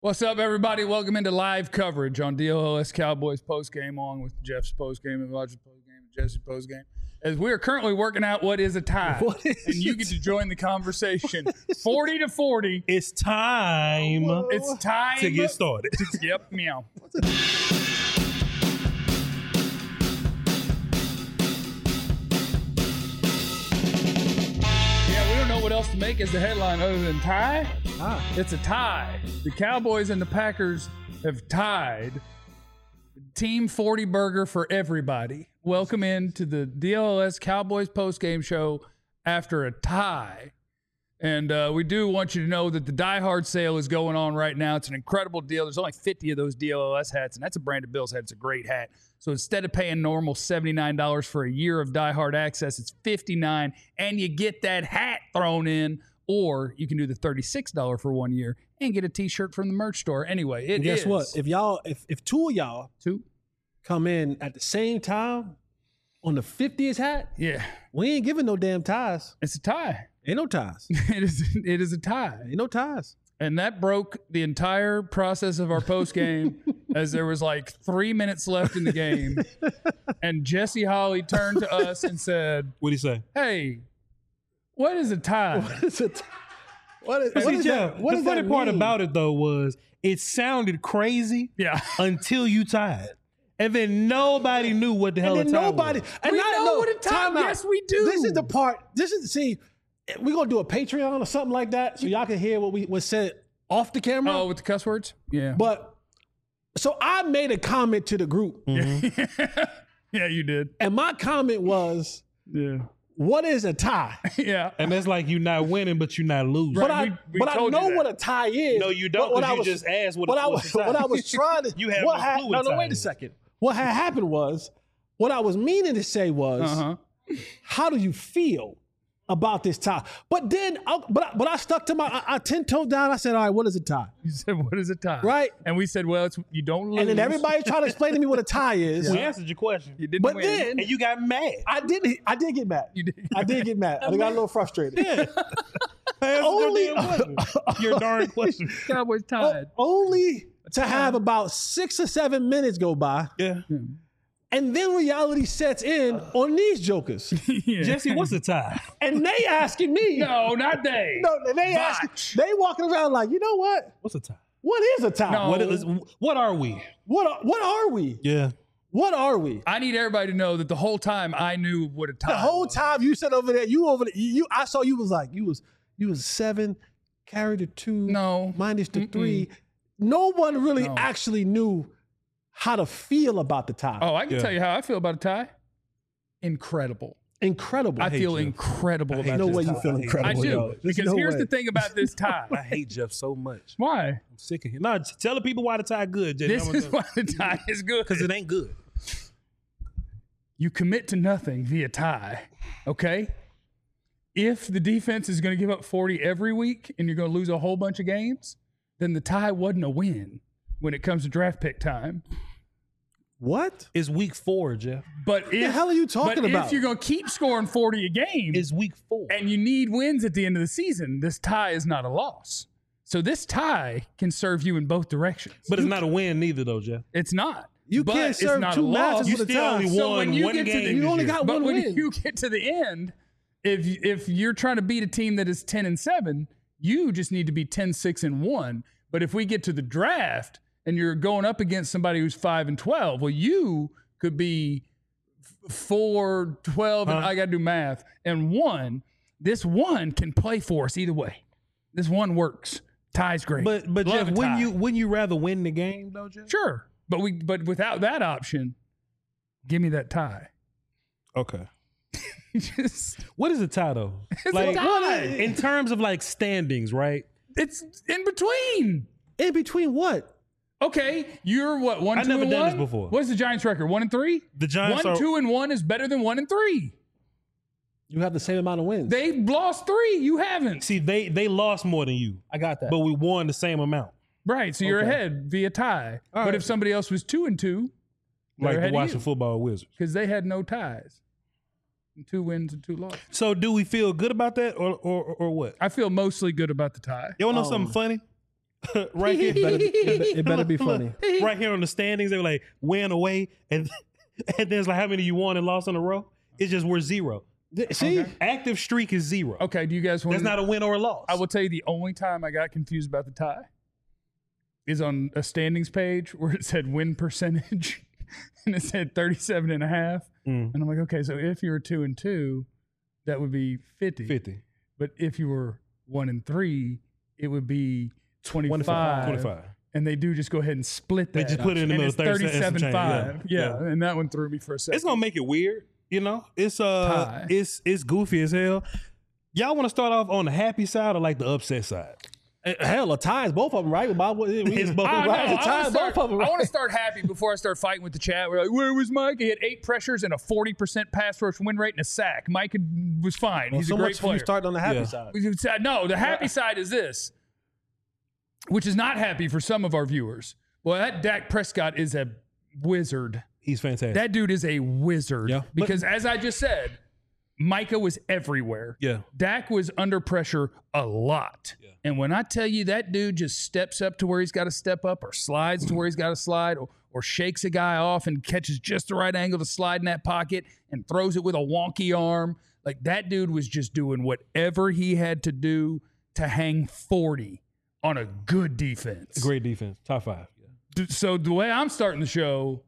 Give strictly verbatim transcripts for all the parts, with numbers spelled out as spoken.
What's up, everybody? Welcome into live coverage on D L L S Cowboys postgame, along with Jeff's postgame and Roger's postgame and Jesse's postgame. As we are currently working out what is a tie, What is and you get to join the conversation. Forty to forty, It's time it's time to get started. Yep, meow. Yeah, we don't know what else to make as the headline other than tie. Ah. It's a tie. The Cowboys and the Packers have tied. Team forty burger for everybody. Welcome in to the D L L S Cowboys postgame show after a tie. And uh, we do want you to know that the Die Hard sale is going on right now. It's an incredible deal. There's only fifty of those D L L S hats, and that's a Brandon Bills hat. It's a great hat. So instead of paying normal seventy-nine dollars for a year of Die Hard access, it's fifty-nine dollars, and you get that hat thrown in. Or you can do the thirty-six dollars for one year and get a T-shirt from the merch store. Anyway, it And guess is what? If y'all, if, if two of y'all two. come in at the same time on the fiftieth hat, Yeah, we ain't giving no damn ties. it's a tie. Ain't no ties. It is. It is a tie. Ain't no ties. And that broke the entire process of our post game, as there was like three minutes left in the game, and Jesse Holly turned to us and said, What'd he say? "Hey, what is a tie?" What is it? What is, what See, is Jeff, that? What the does funny that part mean? about it, though, was it sounded crazy Yeah, until you tied. And then nobody knew what the hell And a then tie nobody. was. And We I know what a tie- time out. yes, we do. This is the part. This is see. We're gonna do a Patreon or something like that, so y'all can hear what we was said off the camera. oh, with the cuss words. Yeah, But so I made a comment to the group, yeah, you did. and my comment was, Yeah, "What is a tie?" yeah. And that's like you not winning, but you not losing. Right. But I, we- we but I told you know that. what a tie is. No, you don't, But what 'cause I you was- just asked what what a- I what's was. a tie. What I was trying to. You have what no ha- clue No, what no, tie wait a is. second. What had happened was, what I was meaning to say was, Uh huh. how do you feel about this tie? But then, I, but I, but I stuck to my. I, I ten toed down. I said, all right, what is a tie? You said, "What is a tie?" Right. And we said, "Well, it's you don't lose." And then everybody tried to explain to me what a tie is. We answered your question. You didn't But win. then And you got mad. I did. I did get mad. You did. I did get mad. I got a little frustrated. Yeah. Answer Only- your damn question. Your darn question. Cowboys O- tied. only to have about six or seven minutes go by, Yeah. and then reality sets in on these jokers, Yeah. Jesse, what's a tie? and they asking me. No, not they. No, they Botch. asking. They walking around like, you know what? What's a tie? What is a tie? No. What is? What are we? What are, what are we? Yeah. What are we? I need everybody to know that the whole time I knew what a tie The whole was. time you said over there, you over there, you I saw you was like, you was you was seven, carry the two, No. minus the Mm-mm. three. No one really No. actually knew how to feel about the tie. Oh, I can Yeah. tell you how I feel about a tie. Incredible. Incredible. I hate feel you. incredible I hate about no this way you tie. feel I hate incredible. I do. yo. There's Because no here's way. the thing about this tie. I hate Jeff so much. Why? I'm sick of him. No, t- tell the people why the tie good, Jay. This is why the tie is good. Because it ain't good. You commit to nothing via tie, okay? If the defense is going to give up forty every week and you're going to lose a whole bunch of games, then the tie wasn't a win when it comes to draft pick time. What? It's week four, Jeff. But if, the hell are you talking but about? if you're going to keep scoring forty a game It's week four. and you need wins at the end of the season, this tie is not a loss. So this tie can serve you in both directions. But it's not a win neither, though, Jeff. It's not. You But can't it's serve not two a loss. matches You with a still tie. only So won when you one get to game. the- You this only year. got But one when win. you get to the end, if if you're trying to beat a team that is ten and seven, you just need to be ten, six, and one. But if we get to the draft and you're going up against somebody who's five and twelve, well, you could be f- four, twelve, and Huh? I got to do math, and one. This one can play for us either way. This one works. Tie's great. But but Love Jeff, a wouldn't tie. you wouldn't you rather win the game though, Jeff? Sure, but we but without that option, give me that tie. Okay. Just What is a tie though? It's a like tie. in terms of like standings, right? it's in between. In between what? Okay, you're what one, I've two, never and done one? this before. What's the Giants' record? One and three. The Giants one, are two, and one is better than one and three. You have the same amount of wins. They lost three. You haven't. see they they lost more than you, I got that. but we won the same amount. Right, so you're Okay. ahead via tie. All but right. if somebody else was two and two, Like the ahead of Washington you. football Wizards. because they had no ties, two wins and two losses. So do we feel good about that or or or what? I feel mostly good about the tie. You wanna know Um, something funny? right here. It better, it, it better be funny. Right here on the standings, they were like win away, and and there's like how many you won and lost in a row. It's just we're zero. See, Okay. Active streak is zero. Okay, do you guys want That's to? not a win or a loss. I will tell you the only time I got confused about the tie is on a standings page where it said win percentage and it said thirty-seven and a half. Mm. And I'm like, okay, so if you were two and two, that would be fifty. fifty. But if you were one and three, it would be twenty-five. twenty-five. And they do just go ahead and split that. They just put it in the And middle, it's thirty-seven thirty-seven five. change. Yeah. Yeah. yeah. And that one threw me for a second. It's gonna make it weird, you know. It's uh, Tie. it's it's goofy as hell. Y'all want to start off on the happy side or like the upset side? hell, a tie is both of them, right? Bob, we, It's both. I, right? know. A I tie wanna is start, both of them, I right? want to start happy before I start fighting with the chat. We're like, where was Mike? He had eight pressures and a forty percent pass rush win rate and a sack. Mike was fine. Well, He's so a great much for player. you starting on the happy Yeah. side. We said- No, the happy side is this, which is not happy for some of our viewers. Well, that Dak Prescott is a wizard. He's fantastic. That dude is a wizard. Yeah. Because as I just said, Micah was everywhere. yeah. Dak was under pressure a lot. Yeah. And when I tell you that dude just steps up to where he's got to step up or slides to where he's got to slide or, or shakes a guy off and catches just the right angle to slide in that pocket and throws it with a wonky arm, like that dude was just doing whatever he had to do to hang forty on a good defense. Great defense. Top five. D- So the way I'm starting the show,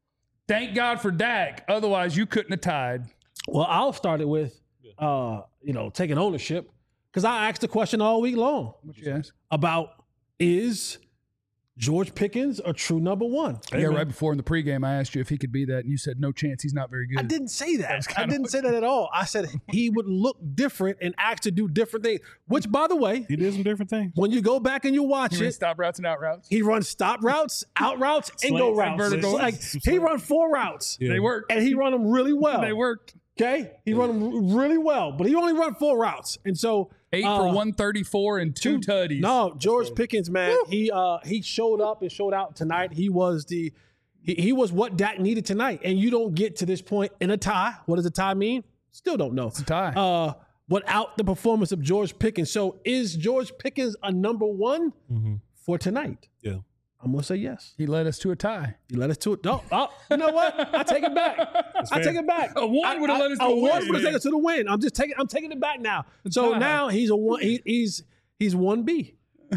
thank God for Dak. Otherwise, you couldn't have tied. Well, I'll start it with, uh, you know, taking ownership because I asked the question all week long Yes. about is George Pickens a true number one? Yeah, right before in the pregame, I asked you if he could be that, and you said no chance. He's not very good. I didn't say that. was I kinda didn't what- say that at all. I said he would look different and act to do different things. Which, by the way, He did some different things. when you go back and you watch He ran it, stop routes and out routes. he runs stop routes, out routes, and go Slants, routes. vertical. Like he run four routes, Yeah. They worked. and he run them really well. They worked. Okay, he run them really well, but he only run four routes, and so Eight uh, for one thirty-four and two, tutties. No, George Pickens, man, he uh he showed up and showed out tonight. He was the he, he was what Dak needed tonight. And you don't get to this point in a tie. What does a tie mean? Still don't know. It's a tie. Uh without the performance of George Pickens. So is George Pickens a number one Mm-hmm. for tonight? Yeah. I'm gonna say yes. he led us to a tie. You let us to it. Oh, oh, you know what? I take it back. I take it back. A one I- would've I- led us to a a one win. would have taken us to the win. I'm just taking. I'm taking it back now. So tie. now he's a one. He, he's he's one B.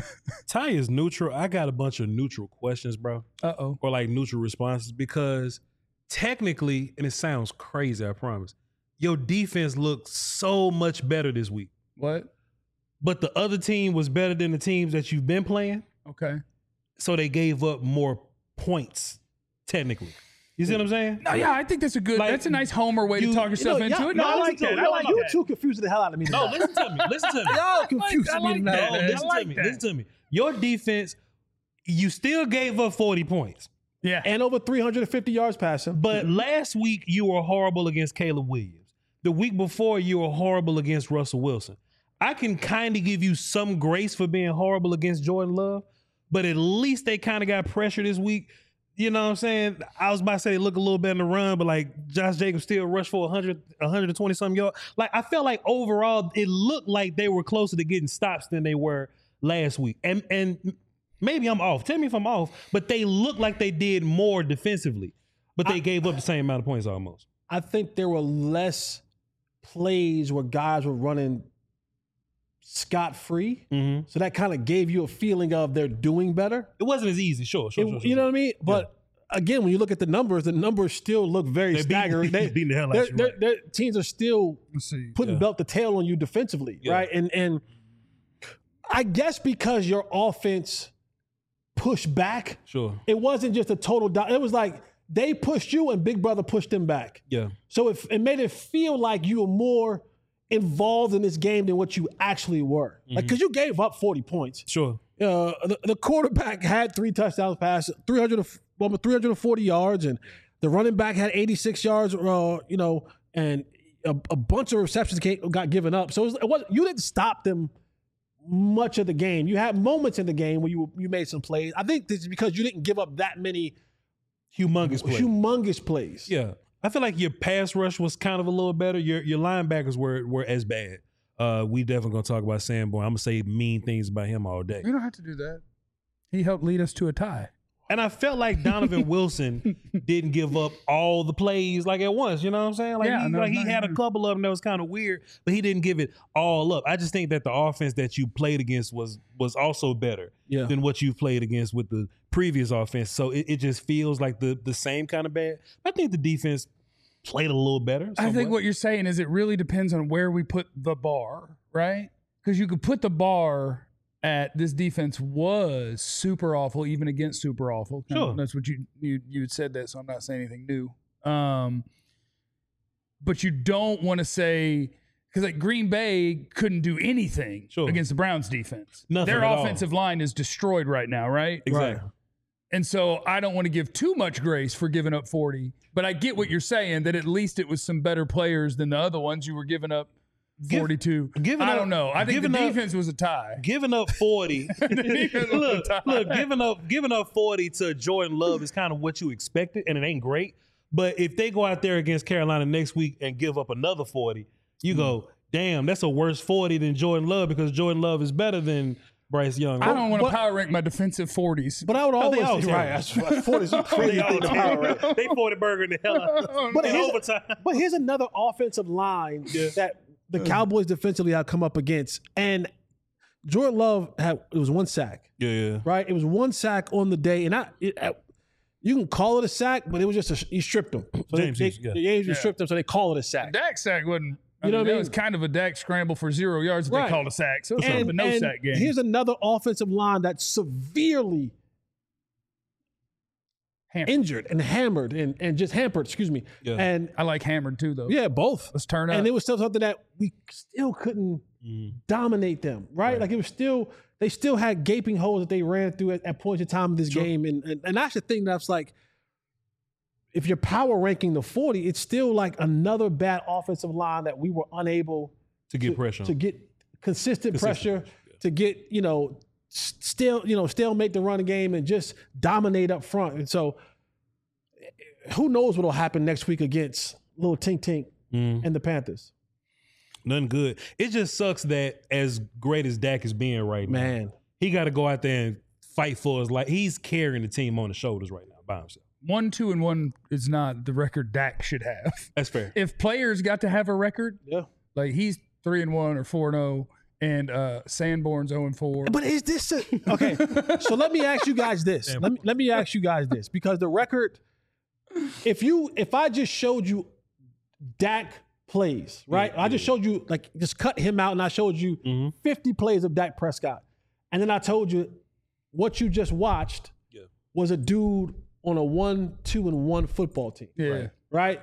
Ty is neutral. I got a bunch of neutral questions, bro, Uh oh. or like neutral responses because technically, and it sounds crazy, I promise, your defense looked so much better this week. What? But the other team was better than the teams that you've been playing, Okay. so they gave up more points, technically. You see what I'm saying? No, yeah, I think that's a good. Like, that's a nice homer way you- to talk yourself You know, into y'all- it. No, y'all I like like that. I y'all- like you that. two confusing the hell out of me. No, tonight. listen to me. Listen to me. Y'all confusing I me like tonight. that. No, man. listen I like to me. that. Listen to me. Your defense, you still gave up forty points. Yeah. And over three hundred fifty yards passing. But last week you were horrible against Caleb Williams. The week before you were horrible against Russell Wilson. I can kind of give you some grace for being horrible against Jordan Love, but at least they kind of got pressure this week. You know what I'm saying? I was about to say they look a little better in the run, but like Josh Jacobs still rushed for one hundred, one twenty something yards. Like I felt like overall it looked like they were closer to getting stops than they were last week. And and maybe I'm off. Tell me if I'm off, but they looked like they did more defensively, but they gave up the same amount of points almost. I think there were less plays where guys were running scot-free. Mm-hmm. So that kind of gave you a feeling of they're doing better. It wasn't as easy, sure, sure, It- sure, sure. you know what I mean? But again, when you look at the numbers, the numbers still look very They're beating- staggering. They, beating the hell out they're- of you, they're- right. they're- teams are still Let's see. putting Yeah. belt to tail on you defensively, Yeah. right? And and I guess because your offense pushed back, Sure. it wasn't just a total. Do- it was like they pushed you and Big Brother pushed them back. Yeah. So it, it made it feel like you were more involved in this game than what you actually were. Like because you gave up forty points. Sure. Uh, the, the quarterback had three touchdowns passes, three hundred, almost three hundred forty yards, and the running back had eighty-six yards. Uh, you know, and a, a bunch of receptions came, got given up. So it was, it was you didn't stop them much of the game. You had moments in the game where you you made some plays. I think this is because you didn't give up that many Humongous play. humongous plays. Yeah. I feel like your pass rush was kind of a little better. Your your linebackers were were as bad. Uh, we definitely gonna talk about Sanborn. I'm gonna say mean things about him all day. You don't have to do that. He helped lead us to a tie. And I felt like Donovan Wilson didn't give up all the plays like at once. You know what I'm saying? Like, Yeah, he, no, like he no, had a no. couple of them that was kind of weird, but he didn't give it all up. I just think that the offense that you played against was was also better Yeah. than what you played against with the previous offense. So it, it just feels like the the same kind of bad. I think the defense played a little better. I think somewhat. what you're saying is it really depends on where we put the bar, right? Because you could put the bar at this defense was super awful, even against super awful. Sure. That's what you you you had said that, so I'm not saying anything new. Um, but you don't want to say because like Green Bay couldn't do anything Sure. against the Browns defense. Nothing Their at all. offensive line is destroyed right now, right? Exactly. And so I don't want to give too much grace for giving up forty, but I get what you're saying that at least it was some better players than the other ones you were giving up Give- forty-two. giving I up- don't know. I think the giving up- defense was a tie. Giving up forty, defense was look, a tie. look, giving up, giving up forty to Jordan Love is kind of what you expected, and it ain't great. But if they go out there against Carolina next week and give up another forty, you go, damn, that's a worse forty than Jordan Love because Jordan Love is better than Bryce Young. I don't want to But- power rank my defensive forties. But I would Oh, always they all right. That's, that's forty is a crazy They all thing to power rank. terrible. They forty burger in the hell out But in here's, overtime. but here's another offensive line Yeah. that the Cowboys defensively have come up against. And Jordan Love had it was one sack, Yeah, yeah. right? It was one sack on the day, and I it, I- you can call it a sack, but it was just a, he stripped him. So James they, Houston, yeah. they, the James Yeah. stripped him, so they call it a sack. Dak sack wasn't. I You know mean, what I that mean? was kind of a Dak scramble for zero yards that Right. they called a sack. So it's sort And, of a no and sack game. here's another offensive line that's severely Hammered. injured and hammered and, and just hampered, excuse me. Yeah. And I like hammered too, though. yeah, both. Let's turn up. And it was still something that we still couldn't Mm. dominate them, right? Right. Like it was still, they still had gaping holes that they ran through at, at points in time of this Sure. game. And, and and that's the thing that's like, if you're power ranking the forty, it's still like another bad offensive line that we were unable To get pressure on. to get consistent, Consistent pressure, pressure, yeah. to get, you know, s- still, you know, stalemate the run game and just dominate up front. And so who knows what'll happen next week against little Tink Tink Mm. and the Panthers. Nothing good. It just sucks that as great as Dak is being right now, Man. he got to go out there and fight for his life. He's carrying the team on his shoulders right now by himself. One, two, and one is not the record Dak should have. That's fair. If players got to have a record, Yeah. like he's three and one or four and zero, and uh, Sanborn's zero and four. But is this a, okay? So let me ask you guys this. Let me let me ask you guys this because the record, if you if I just showed you Dak plays, right? I just showed you like just cut him out, and I showed you Mhm. fifty plays of Dak Prescott, and then I told you what you just watched Yeah. was a dude on a one, two, and one football team, yeah. right?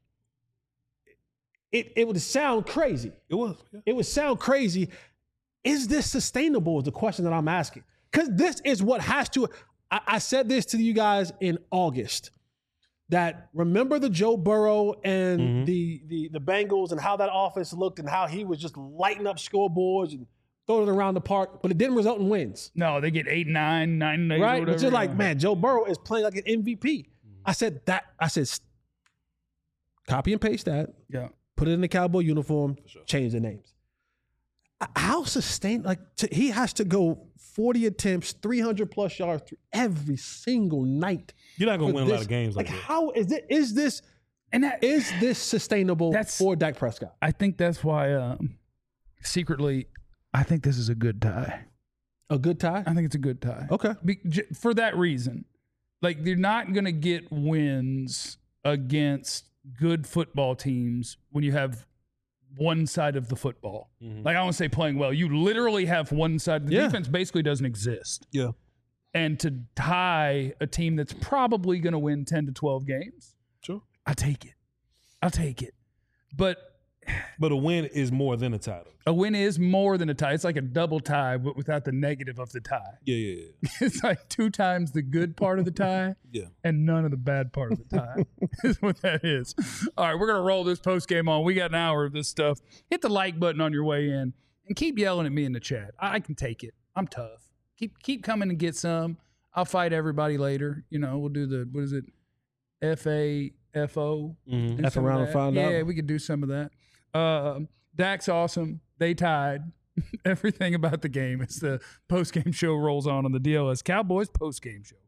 It it would sound crazy. It was. Yeah. It would sound crazy. Is this sustainable? Is the question that I'm asking. Because this is what has to. I, I said this to you guys in August. That remember the Joe Burrow and Mhm. the, the the Bengals and how that offense looked and how he was just lighting up scoreboards and throwing it around the park, but it didn't result in wins. No, they get eight, nine, nine, and eight, Right? or But whatever. you're like, man, Joe Burrow is playing like an M V P. I said that. I said, s- copy and paste that. Yeah. Put it in the Cowboy uniform, change the names. Uh, How sustain like to, he has to go forty attempts, three hundred plus yards through every single night. You're not going for to win a lot this. of games like, Like that. how is it? Is this And that, is this sustainable That's- for Dak Prescott? I think that's why, um, secretly, I think this is a good tie. A good tie? I think it's a good tie. Okay. Be, j- for that reason, like you're not going to get wins against good football teams when you have one side of the football. Mhm. Like I don't say playing well. You literally have one side. The Yeah. defense basically doesn't exist. Yeah. And to tie a team that's probably going to win ten to twelve games, Sure. I'll take it. I'll take it. But But a win is more than a title. a win is more than a tie. It's like a double tie, but without the negative of the tie. Yeah, yeah, yeah. It's like two times the good part of the tie Yeah. and none of the bad part of the tie is what that is. All right, we're going to roll this post game on. We got an hour of this stuff. Hit the like button on your way in and keep yelling at me in the chat. I, I can take it. I'm tough. Keep keep coming and get some. I'll fight everybody later. You know, we'll do the, what is it? F A F O. Mhm. Do F some of around and that. find yeah, out. Yeah, we could do some of that. Uh, Dak's awesome. They tied. everything about the game as the post-game show rolls on on the D L S Cowboys post-game show.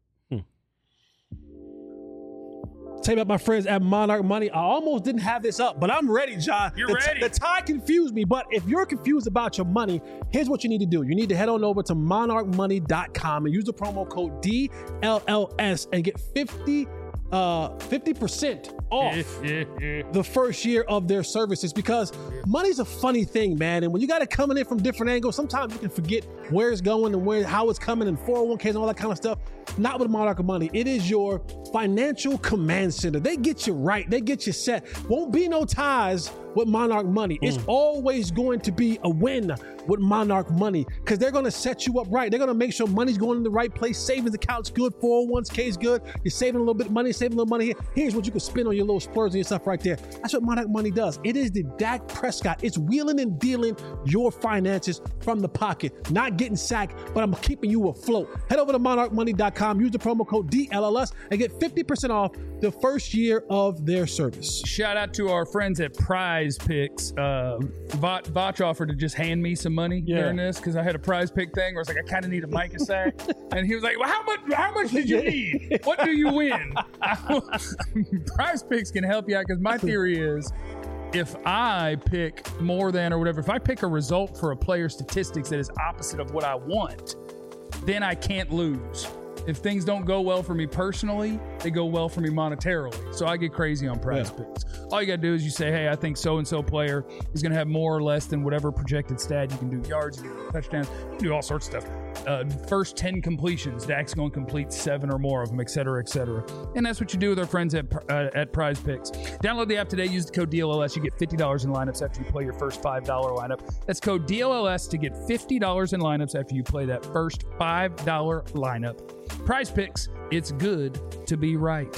Tell you about my friends at Monarch Money. I almost didn't have this up, but I'm ready, John. You're the, ready. The tie confused me, but if you're confused about your money, here's what you need to do. You need to head on over to monarch money dot com and use the promo code D L L S and get fifty uh, fifty percent off the first year of their services, because money's a funny thing, man. And when you got it coming in from different angles, sometimes you can forget where it's going and where how it's coming, and four oh one Ks and all that kind of stuff. Not with Monarch Money. It is your financial command center. They get you right. They get you set. Won't be no ties with Monarch Money. It's Mm. always going to be a win with Monarch Money, because they're going to set you up right. They're going to make sure money's going in the right place. Savings account's good. four oh one K's good. You're saving a little bit of money, saving a little money here. Here's what you can spend on your little splurge and your stuff right there. That's what Monarch Money does. It is the Dak Prescott. It's wheeling and dealing your finances from the pocket. Not getting sacked, but I'm keeping you afloat. Head over to monarch money dot com. Use the promo code D L L S and get fifty percent off the first year of their service. Shout out to our friends at Prize Picks. Uh, Vach, Vach offered to just hand me some money Yeah. during this because I had a Prize Pick thing where I was like, I kind of need a Micah sack, and he was like, well, how much? How much did you need? What do you win? Prize Picks can help you out, because my theory is, if I pick more than or whatever, if I pick a result for a player's statistics that is opposite of what I want, then I can't lose. If things don't go well for me personally, they go well for me monetarily. So I get crazy on Prize Yeah. Picks. All you got to do is you say, hey, I think so-and-so player is going to have more or less than whatever projected stat. You can do yards, you can do touchdowns, you can do all sorts of stuff. Uh, first ten completions, Dak's going to complete seven or more of them, et cetera, et cetera. And that's what you do with our friends at, uh, at Prize Picks. Download the app today. Use the code D L L S. You get fifty dollars in lineups after you play your first five dollar lineup. That's code D L L S to get fifty dollars in lineups after you play that first five dollar lineup. Prize Picks, it's good to be right.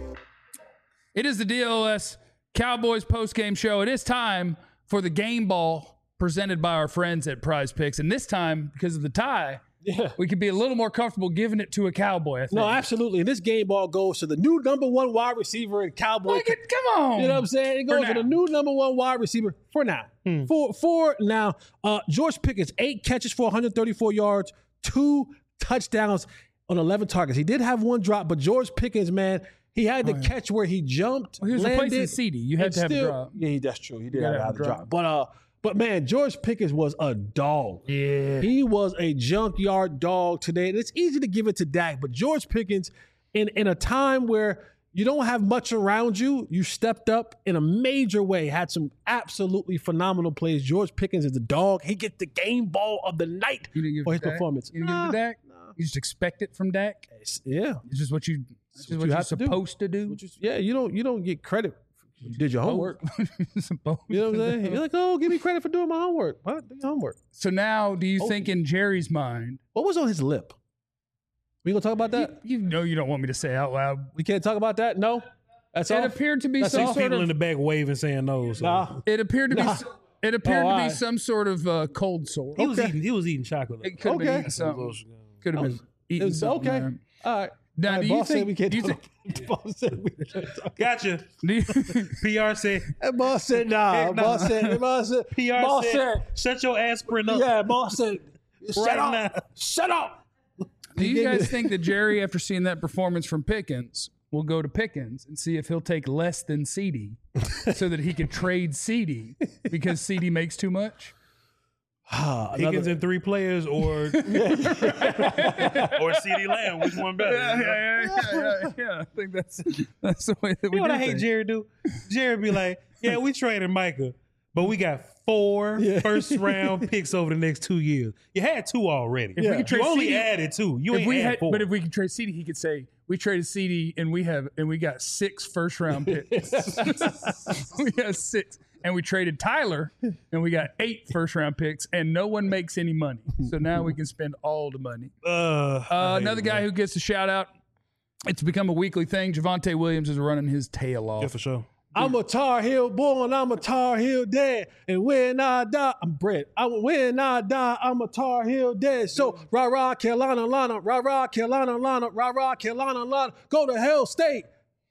It is the D L L S Cowboys postgame show. It is time for the game ball presented by our friends at Prize Picks. And this time, because of the tie, Yeah. we could be a little more comfortable giving it to a Cowboy, I think. No, absolutely. And this game ball goes to the new number one wide receiver in Cowboy. Look at, come on. You know what I'm saying? It For goes to now. the new number one wide receiver for now. For for now, uh, George Pickens, eight catches for one hundred thirty-four yards, two touchdowns on eleven targets. He did have one drop, but George Pickens, man, he had the catch where he jumped. Well, he was landed, replacing C D. You had and to have a still- drop. Yeah, he- that's true. He did gotta have, have to a have drop. a drop. But uh, but man, George Pickens was a dog. Yeah. He was a junkyard dog today. And it's easy to give it to Dak, but George Pickens, in, in a time where you don't have much around you, you stepped up in a major way, had some absolutely phenomenal plays. George Pickens is a dog. He gets the game ball of the night You didn't give for it his to Dak? performance. You didn't give it to Dak? You just expect it from Dak? It's- yeah. It's just what you, it's just what what you you're have to do. supposed to do. Which is- yeah, you don't you don't get credit. You did your homework. Supposed You know what I'm to saying? do. You're like, oh, give me credit for doing my homework. What? Do your homework. So now, do you Oh. think in Jerry's mind, What was on his lip? We gonna talk about that? you, you know you don't want me to say out loud, We can't talk about that? No? That's it all? appeared to be That's some all? sort People of in the back waving, saying no. So. Nah. It appeared to be. Nah. s- It appeared Oh, to be alright. some sort of uh, cold sore. He was Okay. eating. He was eating chocolate. It could have been Okay. eating something. Could have been It eating was- something. okay. man. All right. Now, All right, do you boss said think? we can't do you talk- think? boss said we can't talk. Gotcha. Do you, P R said. That boss said nah. Heck no. Boss said. Boss said. P R boss said, "Shut your aspirin up." Yeah. Boss said. Shut Right up. now. Shut up. do you gave me guys the- think that Jerry, after seeing that performance from Pickens, will go to Pickens and see if he'll take less than C D, so that he can trade C D because C D makes too much? Ah, Higgins another- and three players, or or CeeDee Lamb. Which one better? Yeah, yeah, yeah, yeah, yeah. I think that's that's the way that we You know what do I hate things. Jerry do? Jerry be like, yeah, we traded Micah, but we got four Yeah. first round picks over the next two years. You had two already. If we could You trade only C D added two. You if ain't we add had, four. but if we could trade C D, he could say we traded C D and we have and we got six first round picks. We got six, and we traded Tyler and we got eight first round picks, and no one makes any money. So now we can spend all the money. uh, Uh, another guy who gets a shout out. It's become a weekly thing. Javonte Williams is running his tail off. yeah, for sure. I'm a Tar Heel born, I'm a Tar Heel dead. And when I die, I'm bred. I, when I die, I'm a Tar Heel dead. So, rah rah, Carolina, Lana, rah rah, Carolina, Lana, rah rah, Carolina, Lana, go to Hell State.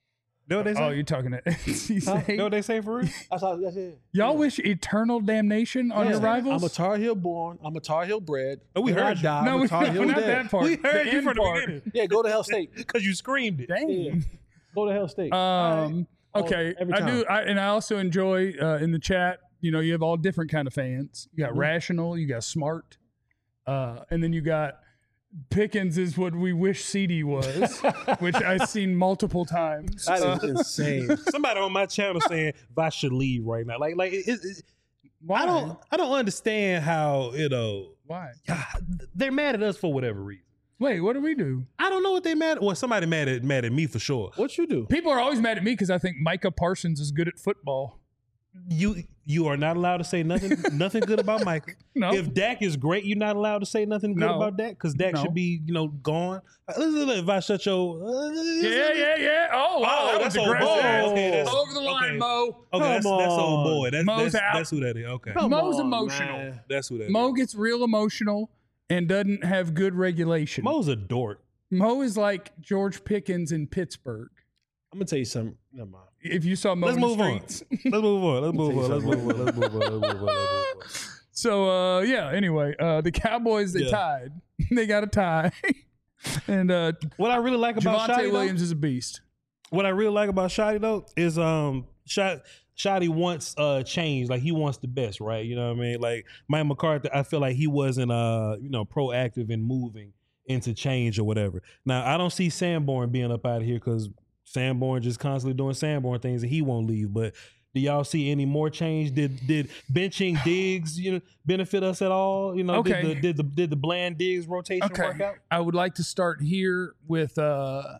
Know what they say? Oh, you're talking to N C State. Know what they say for real? That's how. That's it. Y'all wish eternal damnation on Yeah. your rivals? I'm a Tar Heel born. I'm a Tar Heel bred. Oh, we When I heard you. die, no, I'm we, a Tar no, Heel not dead. that part. We heard the you end from the part. beginning Yeah, go to Hell State. because you screamed it. Dang. Yeah. Go to Hell State. Um. Oh, Okay. every I time. do. I, and I also enjoy uh, in the chat. You know, you have all different kind of fans. You got Mhm. rational. You got smart. Uh, and then you got Pickens is what we wish C D was, which I've seen multiple times. That Uh, is insane. Somebody on my channel saying Vosh should leave right now. Like, like it, it, it- why? I don't, I don't understand how you know Why? they're mad at us for whatever reason. Wait, what do we do? I don't know what they mad. Well, somebody mad at mad at me for sure. What you do? People are always mad at me because I think Micah Parsons is good at football. You you are not allowed to say nothing nothing good about Michael. No. If Dak is great, you're not allowed to say nothing good No. about Dak because Dak No. should be you know gone. Uh, Listen, if I shut your uh, Yeah, yeah, yeah. Oh, wow, Oh, that that's was old aggressive. boy. Okay, that's- Over the line, okay. Mo. Okay, that's, Come that's old on. boy. That's Mo's that's, out. that's who that is. Okay, Come Mo's on, emotional. man. that's who that Mo is. gets real emotional and doesn't have good regulation. Mo's a dork. Mo is like George Pickens in Pittsburgh. I'm gonna tell you something. Never mind. If you saw Mo Let's in the move on. streets. Let's move on. Let's move Say on. Let's something. move on. Let's move on. Let's move on. Let's move on. So uh, yeah. Anyway, uh, the Cowboys they Yeah. tied. They got a tie, and uh, What I really like about Javonte Shotty Williams though, is a beast. what I really like about Shotty though is um Shot Shotty wants uh change. Like he wants the best, right? You know what I mean? Like Mike McCarthy, I feel like he wasn't uh you know proactive in moving into change or whatever. Now I don't see Sanborn being up out of here because Sanborn just constantly doing Sanborn things and he won't leave. But do y'all see any more change? Did did benching Diggs you know benefit us at all? You know, Okay. did the did the did the Bland Diggs rotation work Okay, out? I would like to start here with uh,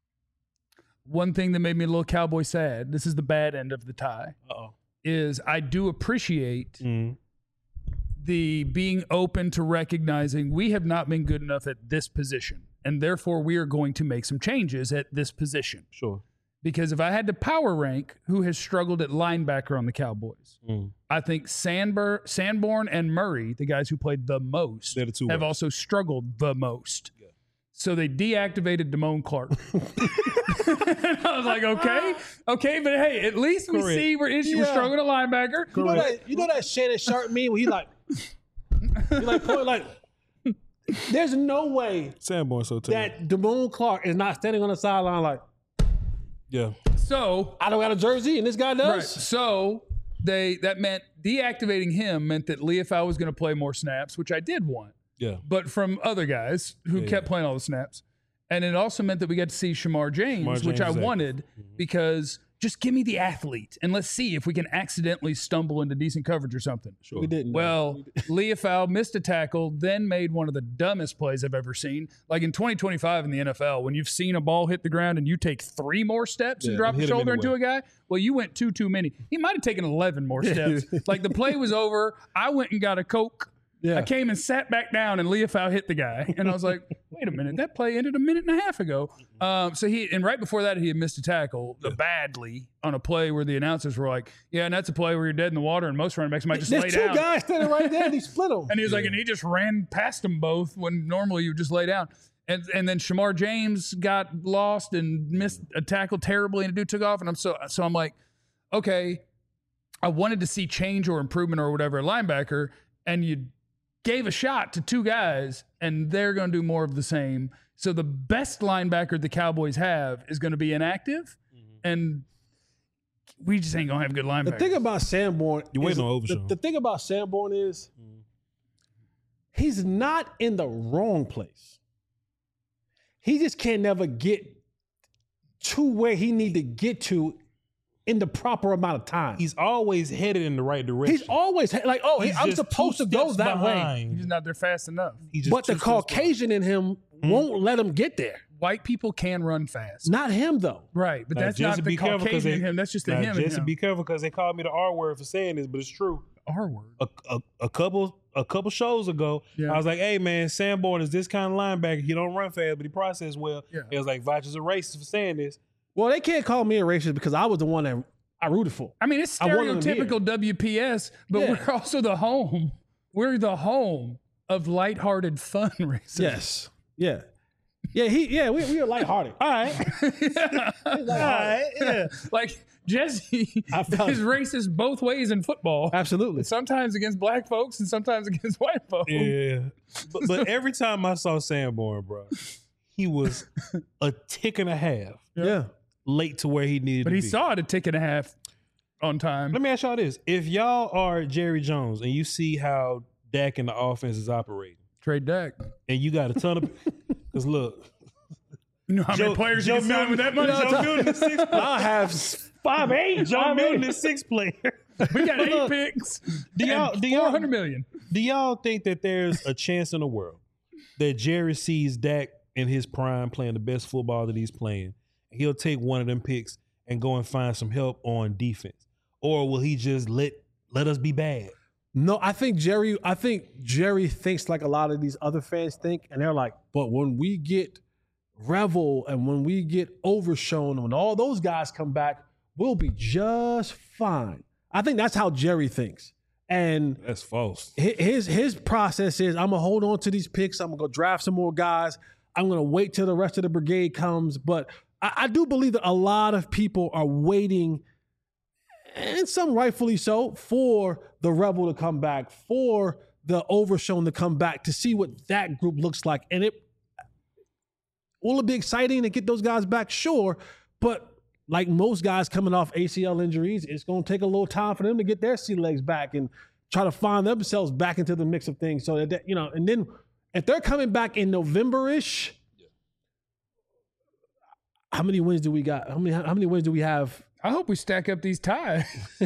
one thing that made me a little Cowboy sad. This is the bad end of the tie. Uh-oh. Is I do appreciate Mm. the being open to recognizing we have not been good enough at this position, and therefore we are going to make some changes at this position. Sure. Because if I had to power rank who has struggled at linebacker on the Cowboys, Mm. I think Sandber, Sanborn and Murray, the guys who played the most, They're the two have worst. also struggled the most. So they deactivated Damone Clark. I was like, okay, okay, but hey, at least we Correct. see we're, we're Yeah. struggling at linebacker. You know that? You know that Shannon Sharp meme where he like, he like point like. There's no way Sanborn so tough. that Damone Clark is not standing on the sideline like, Yeah. So I don't got a jersey and this guy Right. does. So they that meant deactivating him meant that Leofau was going to play more snaps, which I did want, Yeah. but from other guys who Yeah, kept yeah. playing all the snaps. And it also meant that we got to see Shamar James, Shamar which James, I exactly. wanted because just give me the athlete and let's see if we can accidentally stumble into decent coverage or something. Sure. We didn't. Well, Leofau missed a tackle, then made one of the dumbest plays I've ever seen. Like in twenty twenty-five in the N F L, when you've seen a ball hit the ground and you take three more steps and Yeah, drop a hit him shoulder into anyway. a guy, well, you went two too many. He might have taken eleven more steps. Like the play was over. I went and got a Coke. Yeah. I came and sat back down, and Leofau hit the guy, and I was like, "Wait a minute, that play ended a minute and a half ago." Um, so he and right before that, he had missed a tackle uh, badly on a play where the announcers were like, "Yeah, and that's a play where you're dead in the water, and most running backs might just There's lay two down." guys standing right there and he split them. And he was like, and he just ran past them both when normally you would just lay down. And and then Shamar James got lost and missed a tackle terribly, and the dude took off. And I'm so so I'm like, okay, I wanted to see change or improvement or whatever at linebacker, and you gave a shot to two guys, and they're going to do more of the same. So the best linebacker the Cowboys have is going to be inactive, and we just ain't going to have good linebackers. The thing about Sanborn, You waiting is- on the, Overshown. the thing about Sanborn is he's not in the wrong place. He just can't never get to where he need to get to in the proper amount of time. He's always headed in the right direction. He's always like, oh, He's I'm just supposed two to go steps that way. behind. He's not there fast enough. He's just But the two steps behind. Caucasian in him won't let him get there. White people can run fast. Not him though. Right, but Now, that's Jesse, not the be careful 'cause Caucasian they- in him. That's just the Now, him in Jesse, him. be careful because they called me the R word for saying this, but it's true. R word. A, a, a couple a couple shows ago, Yeah. I was like, "Hey man, Sanborn is this kind of linebacker. He don't run fast, but he processes well." Yeah. It was like Vach is a racist for saying this. Well, they can't call me a racist because I was the one that I rooted for. I mean, it's I wanted him here. stereotypical W P S, but Yeah. we're also the home. We're the home of lighthearted fun racism. Yes. Yeah. Yeah, he. Yeah, we we are lighthearted. All right. yeah. All right. Yeah. Like Jesse I felt- is racist both ways in football. Absolutely. Sometimes against black folks and sometimes against white folks. Yeah. But, but every time I saw Sanborn, bro, he was a tick and a half Yeah. late to where he needed But to he be. saw it a tick and a half on time. Let me ask y'all this. If y'all are Jerry Jones and you see how Dak and the offense is operating, Trade Dak. and you got a ton of because look, You know how many players you can sign with that money? Joe Milton is six. I have five eight. Joe Milton is six player. We got eight Look, picks. Do y'all do four y'all hundred million. do y'all think that there's a chance in the world that Jerry sees Dak in his prime playing the best football that he's playing, and he'll take one of them picks and go and find some help on defense, or will he just let let us be bad? No, I think Jerry. I think Jerry thinks like a lot of these other fans think, and they're like, "But when we get Revel and when we get Overshown, when all those guys come back, we'll be just fine." I think that's how Jerry thinks, and That's false. hi- his his process is, "I'm gonna hold on to these picks. I'm gonna go draft some more guys. I'm gonna wait till the rest of the brigade comes." But I, I do believe that a lot of people are waiting, and some rightfully so, for the Rebel to come back, for the Overshown to come back, to see what that group looks like. And it will it be exciting to get those guys back? Sure. But like most guys coming off A C L injuries, it's going to take a little time for them to get their sea legs back and try to find themselves back into the mix of things. So that, you know, and then if they're coming back in November-ish, how many wins do we got? How many, how many wins do we have? I hope we stack up these ties.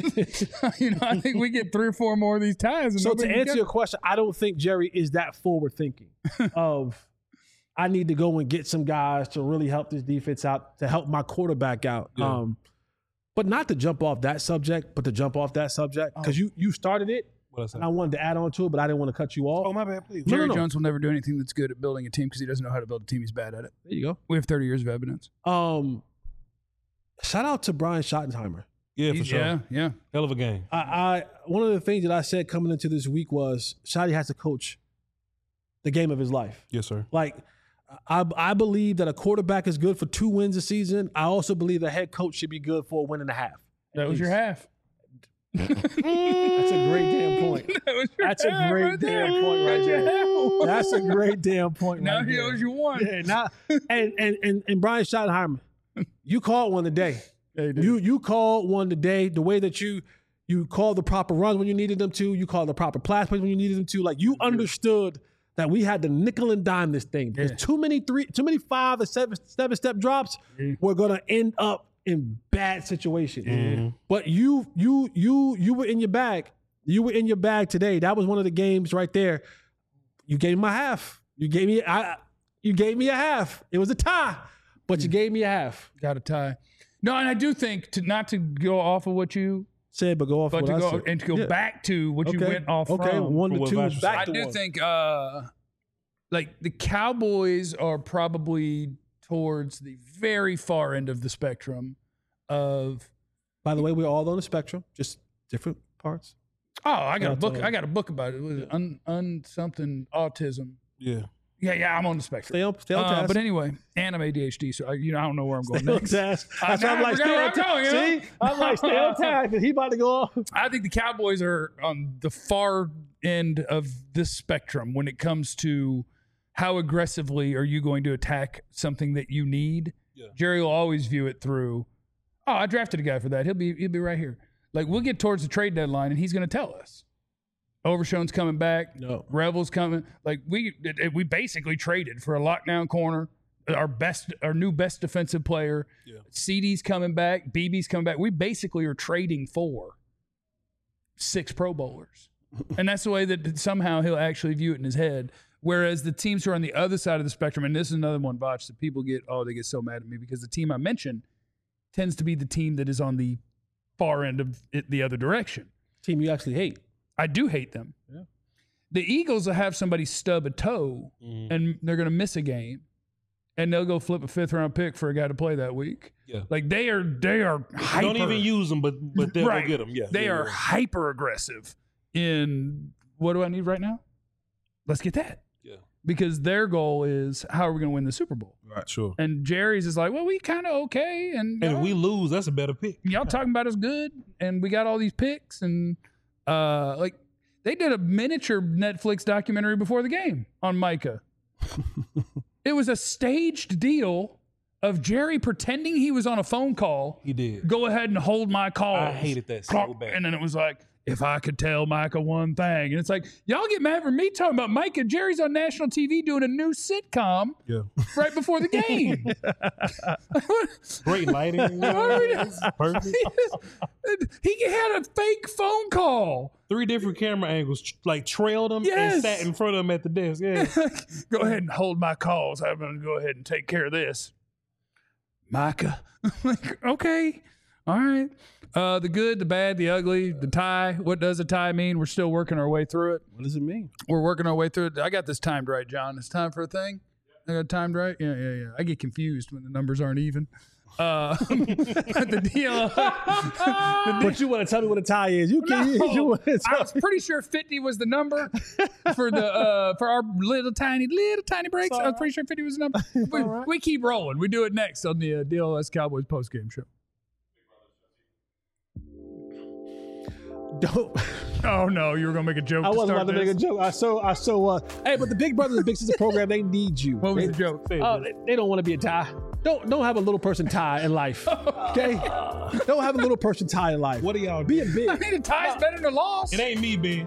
you know, I think we get three or four more of these ties. And So to nobody can answer get your them. question, I don't think Jerry is that forward thinking of I need to go and get some guys to really help this defense out, to help my quarterback out. Yeah. Um, but not to jump off that subject, but to jump off that subject because you you started it What I say? and I wanted to add on to it, but I didn't want to cut you off. Oh my bad, please. No, Jerry no, no. Jones will never do anything that's good at building a team because he doesn't know how to build a team. He's bad at it. There you go. We have thirty years of evidence. Um, shout out to Brian Schottenheimer. Yeah, for He's- sure. Yeah, yeah. Hell of a game. I, I one of the things that I said coming into this week was Shotty has to coach the game of his life. Yes, sir. Like, I I believe that a quarterback is good for two wins a season. I also believe a head coach should be good for a win and a half. That was your half. That's a great damn point. That was your That's a half great right there. damn point right That's your there. half. That's a great damn point. Now right he there. owes you one. Yeah, now, and, and and and Brian Schottenheimer, you called one today. Yeah, he did. You you called one today. The way that you you called the proper runs when you needed them to. You called the proper pass plays when you needed them to. Like you understood that we had to nickel and dime this thing. There's Yeah. too many three, too many five or seven seven step drops. Yeah. We're gonna end up in bad situations. Mhm. But you you you you were in your bag. You were in your bag today. That was one of the games right there. You gave me my half. You gave me I. You gave me a half. It was a tie, but you gave me a half. Got a tie. No, and I do think to not to go off of what you, Said, but go off. but what to I go said. and to go Yeah. back to what you Okay. went off Okay, from. one From to what two, Vash was back I to do one. think, uh, like the Cowboys are probably towards the very far end of the spectrum of. By the way, we're all on the spectrum, just different parts. Oh, I got a That's book. all. I got a book about it. It was un, un something autism. Yeah. Yeah, yeah, I'm on the spectrum. Stay on, stay on Uh, task. but anyway, and I'm A D H D, so I, you know I don't know where I'm going Stay on next. task. I- That's why I'm I like, forgot stay where on I'm going, task. you know? See, I'm like, stay on task because he about to go off. I think the Cowboys are on the far end of this spectrum when it comes to how aggressively are you going to attack something that you need. Yeah. Jerry will always view it through, oh, I drafted a guy for that. He'll be he'll be right here. Like we'll get towards the trade deadline and he's going to tell us. Overshown's coming back. No. Rebel's coming. Like we it- it- we basically traded for a lockdown corner, our best, our new best defensive player. Yeah. C D's coming back. B B's coming back. We basically are trading for six Pro Bowlers, and that's the way that somehow he'll actually view it in his head. Whereas the teams who are on the other side of the spectrum, and this is another one, Botch, that people get, oh, they get so mad at me because the team I mentioned tends to be the team that is on the far end of it, the other direction. Team you actually hate. I do hate them. Yeah. The Eagles will have somebody stub a toe Mhm. and they're going to miss a game, and they'll go flip a fifth round pick for a guy to play that week. Yeah. Like they are, they are hyper. Don't even use them, but but they'll Right. go get them. Yeah. They yeah, are yeah. hyper aggressive in what do I need right now? Let's get that. Yeah. because their goal is how are we going to win the Super Bowl? Right, sure. And Jerry's is like, well, we kind of okay, and And if y'all, we lose, that's a better pick. y'all talking about us good, and we got all these picks, and uh, like they did a miniature Netflix documentary before the game on Micah. It was a staged deal of Jerry pretending he was on a phone call. He did. Go ahead and hold my call. I hated that so bad. And then it was like, if I could tell Micah one thing. And it's like, y'all get mad for me talking about Micah. Jerry's on national T V doing a new sitcom Yeah. right before the game. Great lighting. Perfect. He had a fake phone call. Three different camera angles, tr- like trailed him Yes. and sat in front of him at the desk. Yeah. Go ahead and hold my calls. I'm going to go ahead and take care of this. Micah. Like, okay. All right. Uh, the good, the bad, the ugly, the tie. What does a tie mean? We're still working our way through it. What does it mean? We're working our way through it. I got this timed right, John. It's time for a thing. I got it timed right. Yeah, yeah, yeah. I get confused when the numbers aren't even. Uh, the deal. But you want to tell me what a tie is? You can. No, You want to I tell was pretty sure fifty was the number for the uh, for our little tiny little tiny breaks. I was pretty sure fifty was the number. We, we keep rolling. We do it next on the uh, D L S Cowboys post game show. Don't. Oh no, you were gonna make a joke. I to wasn't start about to make a this? joke. I so I so uh hey, but the Big Brothers and Big Sisters program, they need you. What was they, the joke? Oh, they, they don't want to be a tie. Don't don't have a little person tie in life. Okay? Don't have a little person tie in life. What are y'all Be a doing? I big. mean, a tie's better than a loss. It ain't me, Ben.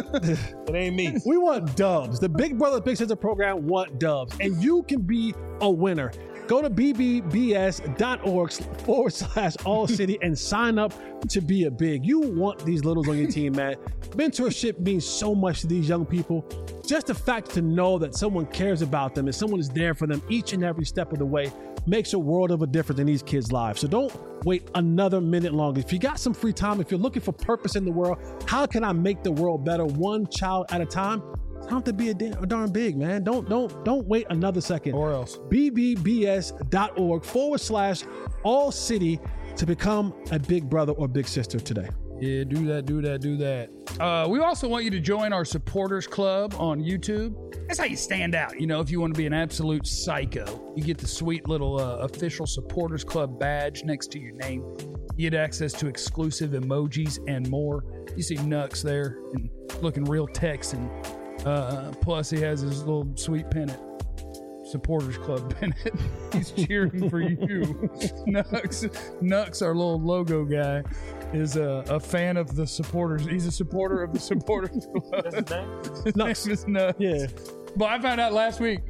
It ain't me. We want dubs. The Big Brother Big Sister program want dubs. And you can be a winner. Go to b b b s dot org forward slash all city and sign up to be a big. You want these littles on your team, man. Mentorship means so much to these young people. Just the fact to know that someone cares about them and someone is there for them each and every step of the way makes a world of a difference in these kids' lives. So don't wait another minute longer. If you got some free time, if you're looking for purpose in the world, how can I make the world better one child at a time? It's time to be a, da- a darn big, man. Don't don't don't wait another second. Or else. b b b s dot org forward slash all city to become a big brother or big sister today. Yeah, do that, do that, do that. Uh, we also want you to join our supporters club on YouTube. That's how you stand out. You know, if you want to be an absolute psycho, you get the sweet little uh, official supporters club badge next to your name. You get access to exclusive emojis and more. You see Nux there and looking real Texan. Uh, plus, he has his little sweet pennant. Supporters Club pennant. He's cheering for you. Nux, Nux, our little logo guy, is a, a fan of the supporters. He's a supporter of the Supporters Club. That's his name? His Nux. name is Nux. Yeah. But I found out last week.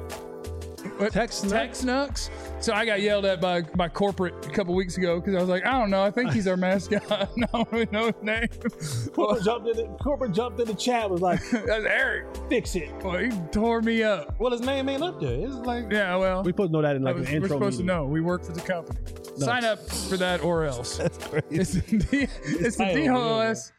What? Tex Nux? Tex Nux. So I got yelled at by by corporate a couple weeks ago because I was like, I don't know. I think he's our mascot. I don't really know his name. Corporate jumped in the corporate jumped in the chat, was like, That's Eric. fix it. Well, he tore me up. Well, his name ain't up there. It's like Yeah, well. We supposed to know that in like I was- an intro. we're supposed meeting. to know. We work for the company. Sign up for that or else. That's crazy. It's the, D- it's the title, D L S.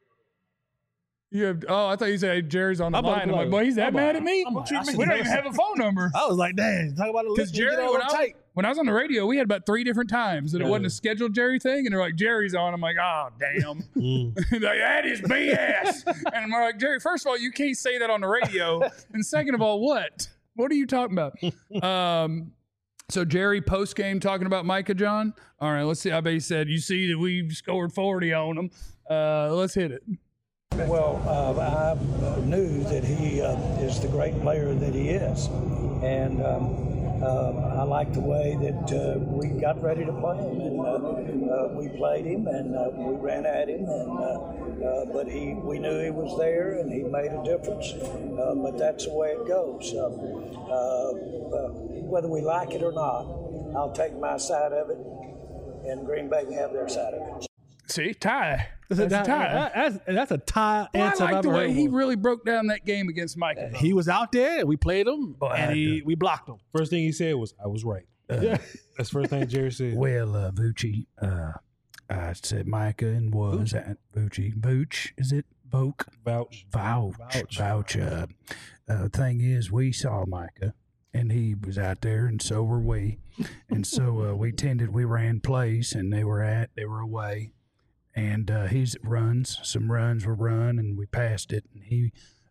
You have, oh, I thought you said Jerry's on the I'm about to line. be I'm like, like- boy, he's that I'm mad like- at me? I'm like, I should We don't know even have a phone number. I was like, dang, talk about a Because list. Jerry, when I, was, when I was on the radio, we had about three different times that it wasn't a scheduled Jerry thing. And they're like, Jerry's on. I'm like, oh, damn. They're like, that is B S. And we're like, Jerry, first of all, you can't say that on the radio. And second of all, what? What are you talking about? Um, so Jerry post game talking about Micah, John. All right, let's see. I bet he said, you see that we scored forty on them. Uh, let's hit it. Well, uh, I knew that he uh, is the great player that he is, and um, uh, I like the way that uh, we got ready to play him, and uh, uh, we played him, and uh, we ran at him, and uh, uh, but he, we knew he was there, and he made a difference. Uh, but that's the way it goes. Um, uh, uh, whether we like it or not, I'll take my side of it, and Green Bay can have their side of it. See, tie. That's, That's, a tie. that- that's, that's a tie Well, I answer I've like the ever way heard he one. really broke down that game against Micah. He was out there, and we played him, I had and he, we blocked him. first thing he said was, "I was right." Yeah. That's the first thing Jerry said. Well, uh, Vucci, uh, I said Micah and was at Vucci. Vooch, is it? Voke? Vouch. Vouch. Vouch. Vouch. Uh, uh, thing is, we saw Micah, and he was out there, and so were we. And so uh, we tended, we ran plays, and they were at, they were away. And uh, he's runs, some runs were run, and we passed it. And he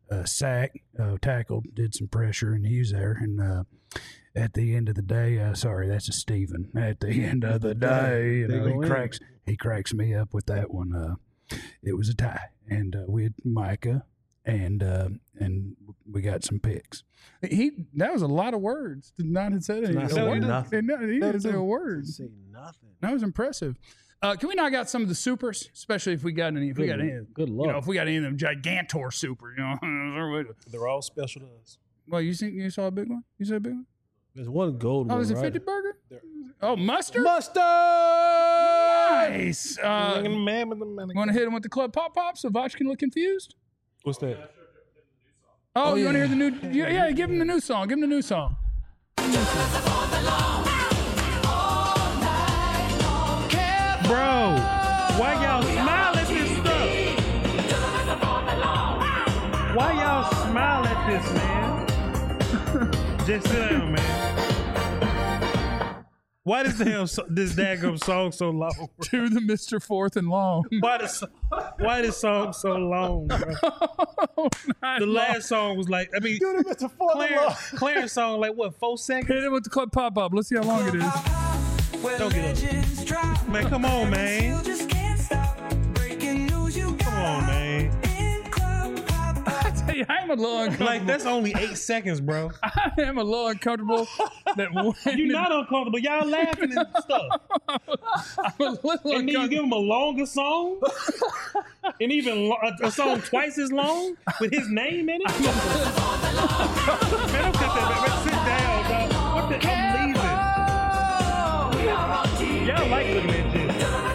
uh, sack, uh, tackled, did some pressure, and he was there. And uh, at the end of the day, uh, sorry, that's a Steven. At the end of the day, you know, he cracks he cracks me up with that one. Uh, it was a tie, and uh, we had Micah, and uh, and we got some picks. He that was a lot of words. Did not have said anything. Not saying nothing. He didn't say a word. Say nothing. That was impressive. Uh, can we knock out some of the supers, especially if we got any? If we got any, Good luck. you know, if we got any of them Gigantor super, you know. They're all special to us. Well, you think you saw a big one? You saw a big one? There's one gold Oh, one. is it right? fifty burger? Oh, mustard. Mustard. Nice. Uh, Want want to hit him with the club pop pop so Vach can look confused? What's that? Oh, you want to hear the new? Yeah, yeah, give him the new song. Give him the new song. Bro, why y'all smile at this stuff? Why y'all smile at this, man? Just sit down, man. Why does damn so, this daggum song so long? Bro? To the Mister Fourth and Long. Why this why this song so long, bro? The last song was like, I mean, Clarence, Clarence song like what, four seconds? Hit him with the club pop pop. Let's see how long it is. Don't get up. Man, come on, man. Come on, man. I tell you, I am a little uncomfortable. Like, that's only eight seconds, bro. I am a little uncomfortable. That when You're not uncomfortable. Y'all laughing and stuff. I'm a little And then you uncomfortable. give him a longer song? And even lo- a, a song twice as long with his name in it? Man, don't cut that, man. Man, sit down, dog. What the? I'm leaving. Y'all like looking at this.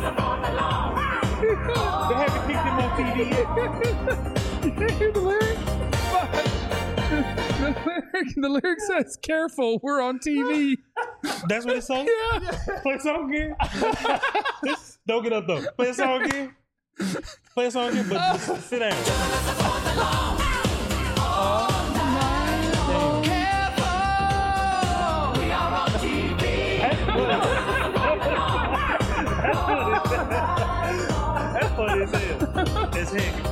They haven't kicked him on T V yet. You can't hear the lyric? The lyric, the lyric says, "Careful, we're on T V." That's what it says? Yeah. Play a song again. Don't get up, though. Play a song again. Play a song again, but just sit down. That's funny as hell. It's heck.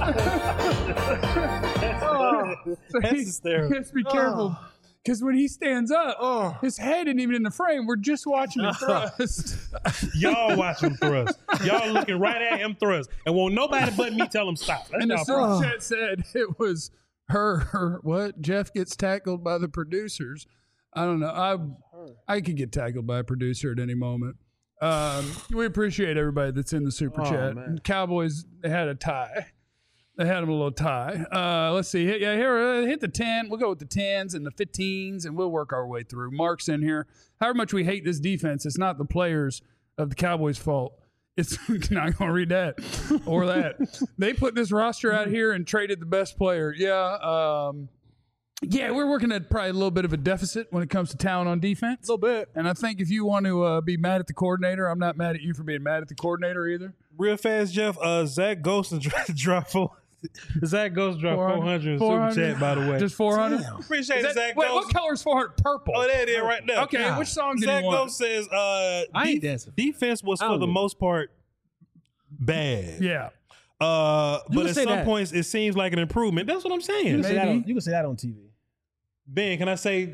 That's hysterical. You have to be careful. Because when he stands up, his head isn't even in the frame. We're just watching him thrust. Y'all watch him thrust. Y'all looking right at him thrust. And won't nobody but me tell him stop. That's And the y'all problem. super chat said it was her, her, what? Jeff gets tackled by the producers. I don't know. I I could get tackled by a producer at any moment. Um, we appreciate everybody that's in the super chat. And Cowboys, they had a tie. They had them a little tie. Uh, let's see. Hit, yeah, here, uh, hit the ten. We'll go with the tens and the fifteens, and we'll work our way through. Mark's in here. However much we hate this defense, it's not the players of the Cowboys' fault. It's not going to read that or that. They put this roster out here and traded the best player. Yeah. Um, yeah, we're working at probably a little bit of a deficit when it comes to talent on defense. A little bit. And I think if you want to uh, be mad at the coordinator, I'm not mad at you for being mad at the coordinator either. Real fast, Jeff. Uh, Zach Ghost dropped four. Zach Ghost dropped four hundred in super chat, by the way. Just four hundred? Appreciate Is it, that, Zach wait, Ghost. what color is four hundred? Purple. Oh, there it is right there. Okay, which song did Zach you want? Ghost says, uh, I ain't def- dancing. defense was I for don't the know. most part bad. Yeah. Uh, You but can at say some that. points, it seems like an improvement. That's what I'm You saying. can, say that Maybe. on, you can say that on T V. Ben, can I say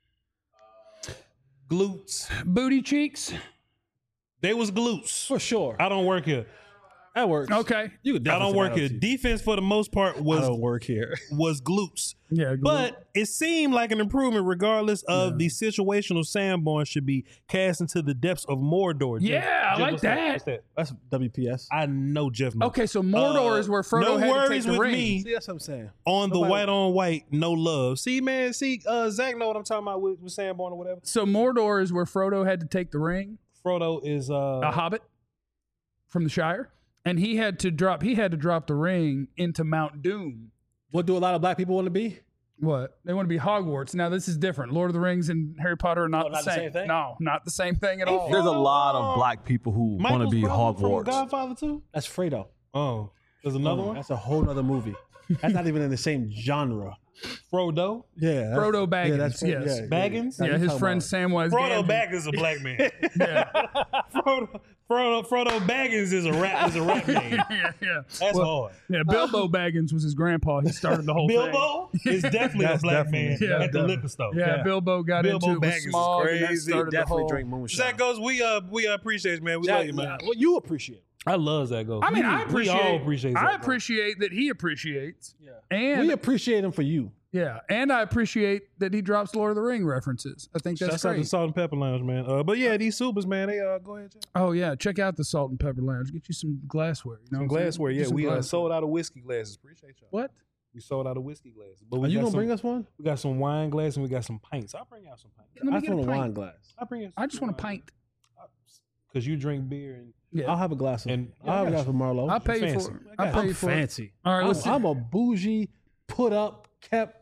glutes? Booty cheeks. They was glutes. For sure. I don't work here. That works. Okay. You could I definitely don't say work that on here. T V. Defense for the most part I was don't work here. was glutes. Yeah. But it seemed like an improvement regardless of the situational Sanborn should be cast into the depths of Mordor. Jeff- Yeah, I Jeff, like what's that. What's that? That's W P S. I know Jeff knows. Okay, so Mordor Uh, is where Frodo no had to take worries the with ring. me. See, that's what I'm saying. On the Nobody- white on white, no love. See, man, see, uh, Zach know what I'm talking about with, with Sanborn or whatever. So Mordor is where Frodo had to take the ring, Frodo is uh a hobbit from the Shire, and he had to drop. He had to drop the ring into Mount Doom. What do a lot of black people want to be? What? They want to be Hogwarts. Now this is different. Lord of the Rings and Harry Potter are not, Oh, the, not the same. same thing? No, not the same thing at all. There's a lot of black people who want to Michael's be brother from Hogwarts. Godfather too. That's Fredo. Oh, there's another one. That's a whole nother movie. That's not even in the same genre. Frodo. Yeah, that's- Frodo Baggins, Yeah, that's yes. yeah, Baggins? Yeah, Yeah, you his talking friend about- Samwise Frodo Gamgee. Baggins is a black man. Yeah, Frodo, Frodo, Frodo Baggins is a rap is a rap name. yeah, yeah. That's hard. Yeah, Bilbo Baggins was his grandpa. He started the whole thing. Bilbo is definitely a That's black definitely- man yeah, at the definitely. liquor store. Yeah, Yeah. Bilbo got Bilbo into it with Baggins is smog, and that crazy. started the Definitely whole. drink moonshine. Zach goes, we uh we uh, appreciate you, man. We Zach, love you, man. well, you appreciate it. I love Zach Goes. I mean, we, I appreciate. We all appreciate Zach I Goes. appreciate that he appreciates. Yeah. And We appreciate him for you. yeah, and I appreciate that he drops Lord of the Ring references. I think that's Shouts out to great. Salt and Pepper Lounge, man. Uh, but yeah, these supers, man. They uh go ahead, Jeff. Oh yeah, check out the Salt and Pepper Lounge. Get you some glassware. You know, Some what I'm saying? glassware. Get Yeah, some we uh, glassware. sold out of whiskey glasses. Appreciate y'all. What? We sold out of whiskey glasses. But we Are you got gonna some, bring us one? We got some wine glasses and we got some pints. I'll bring out some pints. Let me I get just want a a pint. wine glass. I'll bring you. I just want a pint. Because you drink beer and Yeah, I'll have a glass of. And- I'll have a yeah, glass of Marlowe. I'll pay you fancy. for it. I I'll got- pay you I'm for it. fancy. All right, I'm, let's. I'm a bougie, put up, kept.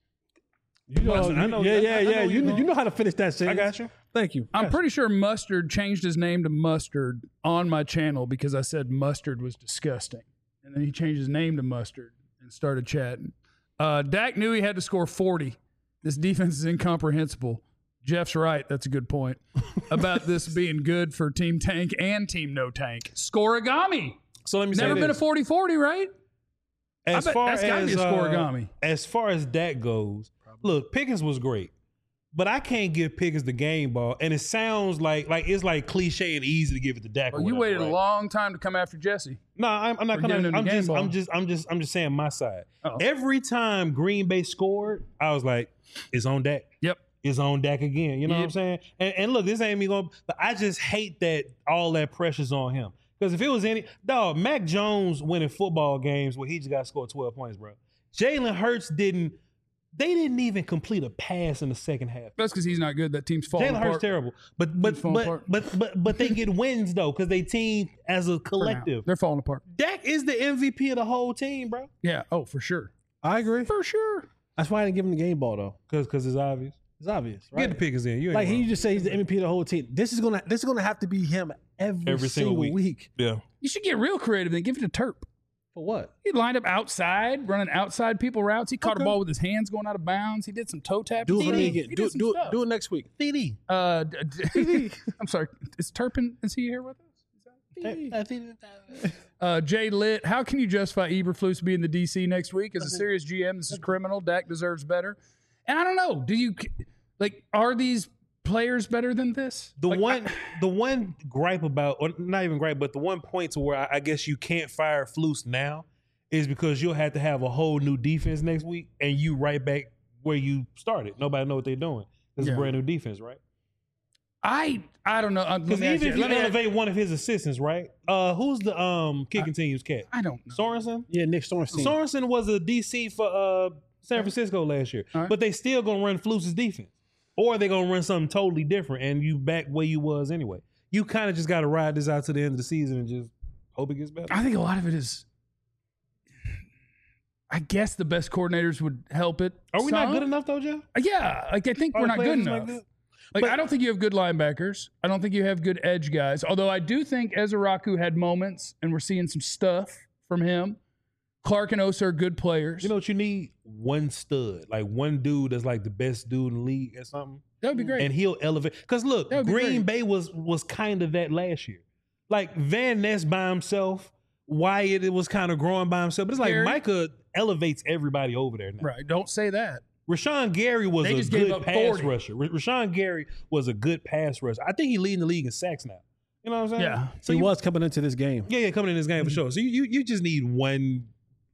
You know, Mustard. I know- yeah, I- yeah, I know yeah. you You know, know. you know how to finish that I sentence. got you. Thank you. I'm pretty sure Mustard changed his name to Mustard on my channel because I said Mustard was disgusting. And then he changed his name to Mustard and started chatting. Uh, Dak knew he had to score forty. This defense is incomprehensible. Jeff's right. That's a good point. About this being good for Team Tank and Team No Tank. Scorigami. So let me Never say been a this. forty forty, right? As I bet far that's gotta as be a uh, scorigami. as far as that goes, look, Pickens was great, but I can't give Pickens the game ball, and it sounds like like it's like cliche and easy to give it to Dak. or Well, you whatever, waited right? a long time to come after Jesse. No, I'm, I'm not For giving coming. him the I'm game just, ball. I'm just, I'm just, I'm just saying my side. Uh-oh. Every time Green Bay scored, I was like, it's on Dak. Yep. It's on Dak again. You know what I'm Yep. saying? And, and look, this ain't me going, but I just hate that all that pressure's on him. Because if it was any dog, Mac Jones winning football games where he just got to score twelve points, bro. Jalen Hurts didn't. They didn't even complete a pass in the second half. That's because he's not good. That team's falling Jalen apart. Hurts terrible, but but Team's falling but, apart. but but but they get wins though because they team as a For now. collective. They're falling apart. Dak is the M V P of the whole team, bro. Yeah. Oh, for sure. I agree. For sure. That's why I didn't give him the game ball though. Because because it's obvious. It's obvious, Get right? the Pickens in. You ain't Like he wrong. just say he's the M V P of the whole team. This is gonna this is gonna have to be him every, Every single single, week. week. yeah. You should get real creative and give it to Terp. For what? He lined up outside, running outside people routes. He caught Okay. a ball with his hands going out of bounds. He did some toe tapping. Do it for He me did- again. he Do did it. some Do it. stuff. Do it next week. D D. Uh, d- d- I'm sorry. Is Turpin? Is he here with us? Uh, Jay Litt, how can you justify Eberflus being the D C next week? As a serious G M, this is criminal. Dak deserves better. And I don't know. Do you like? Are these players better than this? The Like, one, I- the one gripe about, or not even gripe, but the one point to where I, I guess you can't fire Flus now is because you'll have to have a whole new defense next week, and you right back where you started. Nobody know what they're doing. It's Yeah. a brand new defense, right? I I don't know. Uh, let Because me ask even if you let me ask- elevate one of his assistants, right? Uh, who's the um kicking team's cat? I don't know. Sorensen. Yeah, Nick Sorensen. Sorensen was a D C for uh San Francisco last year, All right. but they still gonna run Flus's defense, or they gonna run something totally different, and you back where you was anyway. You kind of just got to ride this out to the end of the season and just hope it gets better. I think a lot of it is. I guess the best coordinators would help it. Are we not some. good enough though, Jeff? Yeah, like I think Are we're the not good players enough. not good? Like But- I don't think you have good linebackers. I don't think you have good edge guys. Although I do think Ezraku had moments, and we're seeing some stuff from him. Clark and Osa are good players. You know what you need? One stud, like one dude that's like the best dude in the league or something, that would be great. and he'll elevate. Because look, That would be Green great. Bay was was kind of that last year. Like Van Ness by himself, Wyatt it was kind of growing by himself, but it's like Gary. Micah elevates everybody over there now. right? Don't say that. Rashawn Gary was They a just gave good up pass forty. rusher. Ra- Rashawn Gary was a good pass rusher. I think he's leading the league in sacks now. You know what I'm saying? Yeah. So he you, was coming into this game. yeah, yeah, coming in this game for Mm-hmm. sure. So you, you you just need one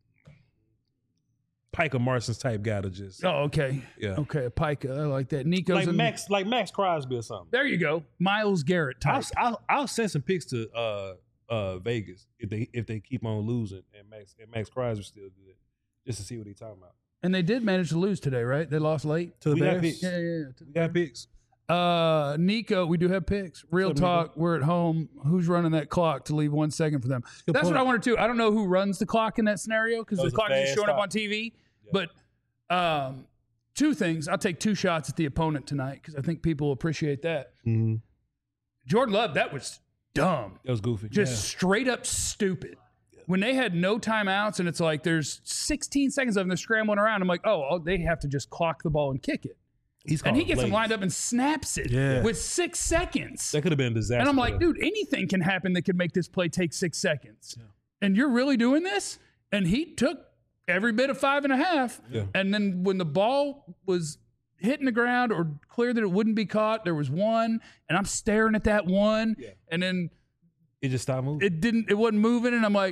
Piker Marsons type guy to just Oh, okay. yeah. Okay, a Pica. I like that. Nico's Like in- Max, like Max Crosby or something. There you go. Miles Garrett I'll, type. I'll I'll send some picks to uh uh Vegas if they if they keep on losing and Max and Max Crosby's still good, just to see what he's talking about. And they did manage to lose today, right? They lost late. To the We got Bears. picks. Yeah, yeah, yeah. We got picks. Uh, Nico, we do have picks. Real What's up, talk. We're at home. Who's running that clock to leave one second for them? Good That's point. what I wanted to. I don't know who runs the clock in that scenario because That the was a clock is just fast showing up stop. on T V. Yeah. But um, two things. I'll take two shots at the opponent tonight because I think people appreciate that. Mm-hmm. Jordan Love, that was dumb. That was goofy. Just straight up stupid. when they had no timeouts and it's like there's sixteen seconds of them, they're scrambling around. I'm like, oh, oh, they have to just clock the ball and kick it. He's And he calling gets them plays. lined up and snaps it Yeah. with six seconds. That could have been a disaster. And I'm like, dude, anything can happen that could make this play take six seconds. And you're really doing this? And he took every bit of five and a half. Yeah. And then when the ball was hitting the ground or clear that it wouldn't be caught, there was one. And I'm staring at that one. Yeah. And then it just stopped moving. it didn't, it wasn't moving. And I'm like,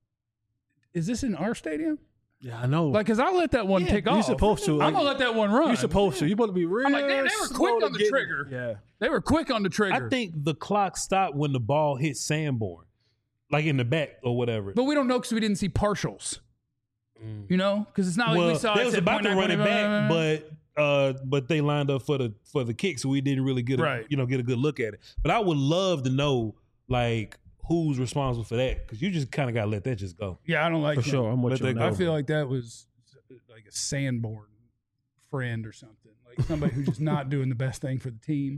is this in our stadium? Yeah, I know. Like, because I let that one take you're off. supposed to. I'm Like, going to let that one run. you're supposed to. You're supposed to be real. I'm like, damn, they were slow quick to on the get- trigger. Yeah. They were quick on the trigger. I think the clock stopped when the ball hit Sanborn, like in the back or whatever. But we don't know because we didn't see partials. You know? Because it's not like well, we saw they it was said about to point run it nine, back, but uh, but they lined up for the for the kick, so we didn't really get a, Right. you know get a good look at it. But I would love to know like who's responsible for that because you just kind of got to let that just go. Yeah, I don't like For him. sure. I'm with Let you on that that I one. feel like that was like a Sanborn friend or something. Like somebody who's just not doing the best thing for the team.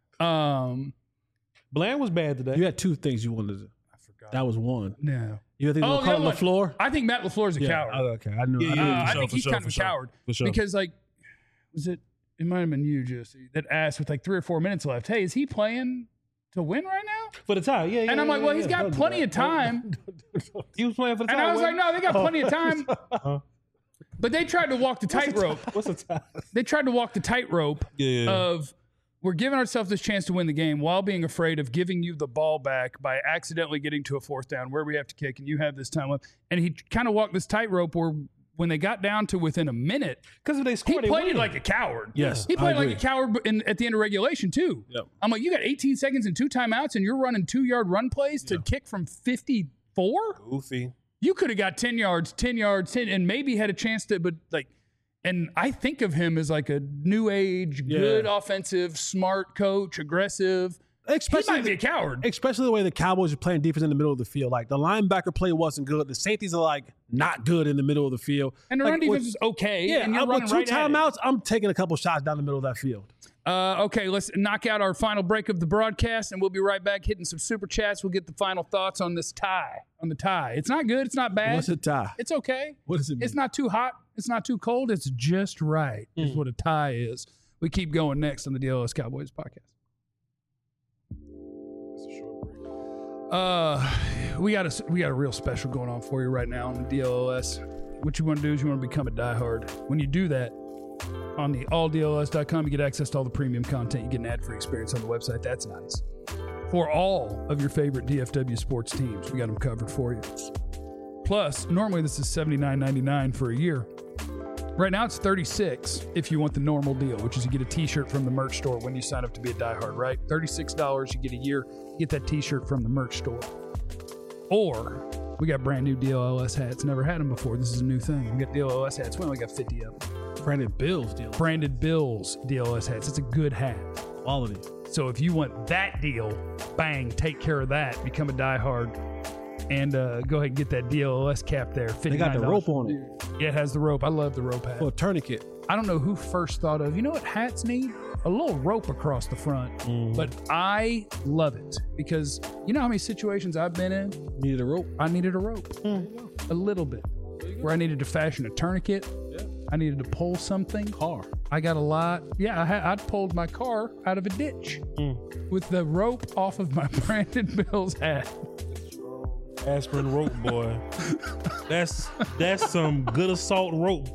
Um, Bland was bad today. You had two things you wanted to. I forgot. That was one. no. You think Oh, they'll the call other one. LaFleur? I think Matt LaFleur is a coward. Oh, okay. I knew. Yeah, I yeah, knew. Uh, for I sure, think for he's sure, kind for of a sure. coward For sure. because like was it? It might have been you, Jesse, that asked with like three or four minutes left. Hey, is he playing to win right now? for the tie. Yeah, yeah. And I'm like, yeah, well, yeah, he's yeah. got Don't do plenty that. of time. He was playing for the tie. And I was like, wasn't no, they got plenty of time. Uh-huh. But they tried to walk the tightrope. he? What's the tie? They tried to walk the tightrope Yeah, yeah, yeah. of we're giving ourselves this chance to win the game while being afraid of giving you the ball back by accidentally getting to a fourth down where we have to kick and you have this time left. And he kind of walked this tightrope where when they got down to within a minute, Because if they he scored, they played it win. like a coward. Yes, He I played like agree. a coward in, at the end of regulation, too. Yep. I'm like, you got eighteen seconds and two timeouts, and you're running two yard run plays to kick from fifty-four? goofy. You could have got ten yards, ten yards, ten, and maybe had a chance to, but like, and I think of him as like a new age, Yeah. good offensive, smart coach, aggressive. He Especially might be a the, coward. especially the way the Cowboys are playing defense in the middle of the field. Like the linebacker play wasn't good. The safeties are like not good in the middle of the field. And the like, run defense with- is okay. Yeah, and you're I'm- running with two right at it. timeouts, I'm taking a couple shots down the middle of that field. Uh, okay, let's knock out our final break of the broadcast, and we'll be right back hitting some super chats. We'll get the final thoughts on this tie. On the tie, it's not good. It's not bad. What's a tie? It's okay. What does it mean? It's not too hot. It's not too cold. It's just right. Is what a tie is. We keep going next on the D L S Cowboys podcast. Uh, we got a we got a real special going on for you right now on the D L S. What you want to do is you want to become a diehard. When you do that, on the all D L S dot com, you get access to all the premium content. You get an ad-free experience on the website. That's nice. For all of your favorite D F W sports teams, we got them covered for you. Plus, normally this is seventy-nine ninety-nine for a year. Right now it's thirty-six if you want the normal deal, which is you get a t-shirt from the merch store when you sign up to be a diehard, right? thirty-six dollars, you get a year, you get that t-shirt from the merch store. Or we got brand new D L S hats. Never had them before. This is a new thing. We got D L S hats. We only got fifty of them. Brandon Bills deal. Branded Bills D L S hats. It's a good hat. Quality. So if you want that deal, bang, take care of that. Become a diehard. And uh, go ahead and get that D L S cap there. They got the fifty-nine dollars. rope on it. Yeah, it has the rope. I love the rope hat. For a tourniquet. I don't know who first thought of, you know what hats need? A little rope across the front. But I love it because you know how many situations I've been in? Needed a rope. I needed a rope. A little bit. Where I needed to fashion a tourniquet. I needed to pull something. Car. I got a lot. Yeah, I had, I'd pulled my car out of a ditch with the rope off of my Brandon Bills hat. Aspirin rope, boy. That's that's some good assault rope.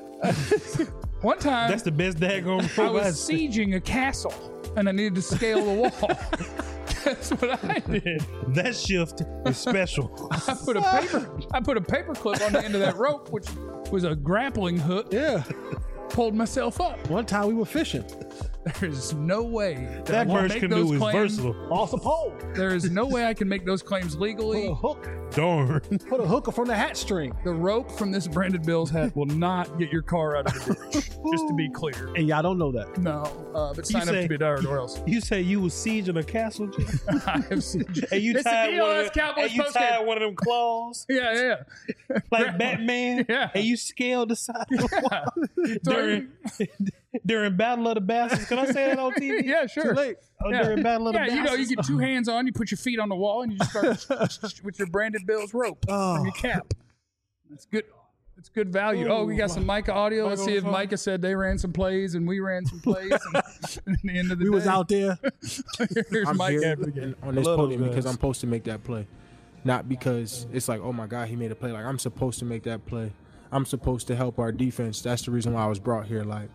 One time, That's the best daggone rope. I I've was seen. sieging a castle and I needed to scale the wall. That's what I did. That shift is special. I put a paper I put a paper clip on the end of that rope, which was a grappling hook, Yeah. pulled myself up. One time we were fishing. There's no way that, That I can birch make canoe those is claims. versatile. Off the pole. There is no way I can make those claims Put legally. a hook. Darn. Put a hooker from the hat string. The rope from this Brandon Bills hat will not get your car out of the ditch. Just to be clear. And y'all don't know that. No, uh, but sign up say- to be a diehard or else. You say you was sieging a castle, Jim? I have seen. and you It's the tied one of D L S them, Cowboys and you postgame. tied one of them claws Yeah, yeah, like Batman, Yeah. and you scaled the side. yeah. During, During Battle of the Bastards. Can I say that on T V? Yeah, sure. Too late. Oh, Yeah. During Battle of the Yeah, you Bastards. know, you get two hands on, you put your feet on the wall, and you just start with your Brandon Bills rope from your cap. That's good. That's good value. Oh, we got some Micah audio. Let's see if Micah said they ran some plays and we ran some plays. And at the end of the We day, was out there. Here's I'm Micah. here on this Love those podium because guys. I'm supposed to make that play, not because it's like, oh my God, he made a play. Like I'm supposed to make that play. I'm supposed to help our defense. That's the reason why I was brought here. Like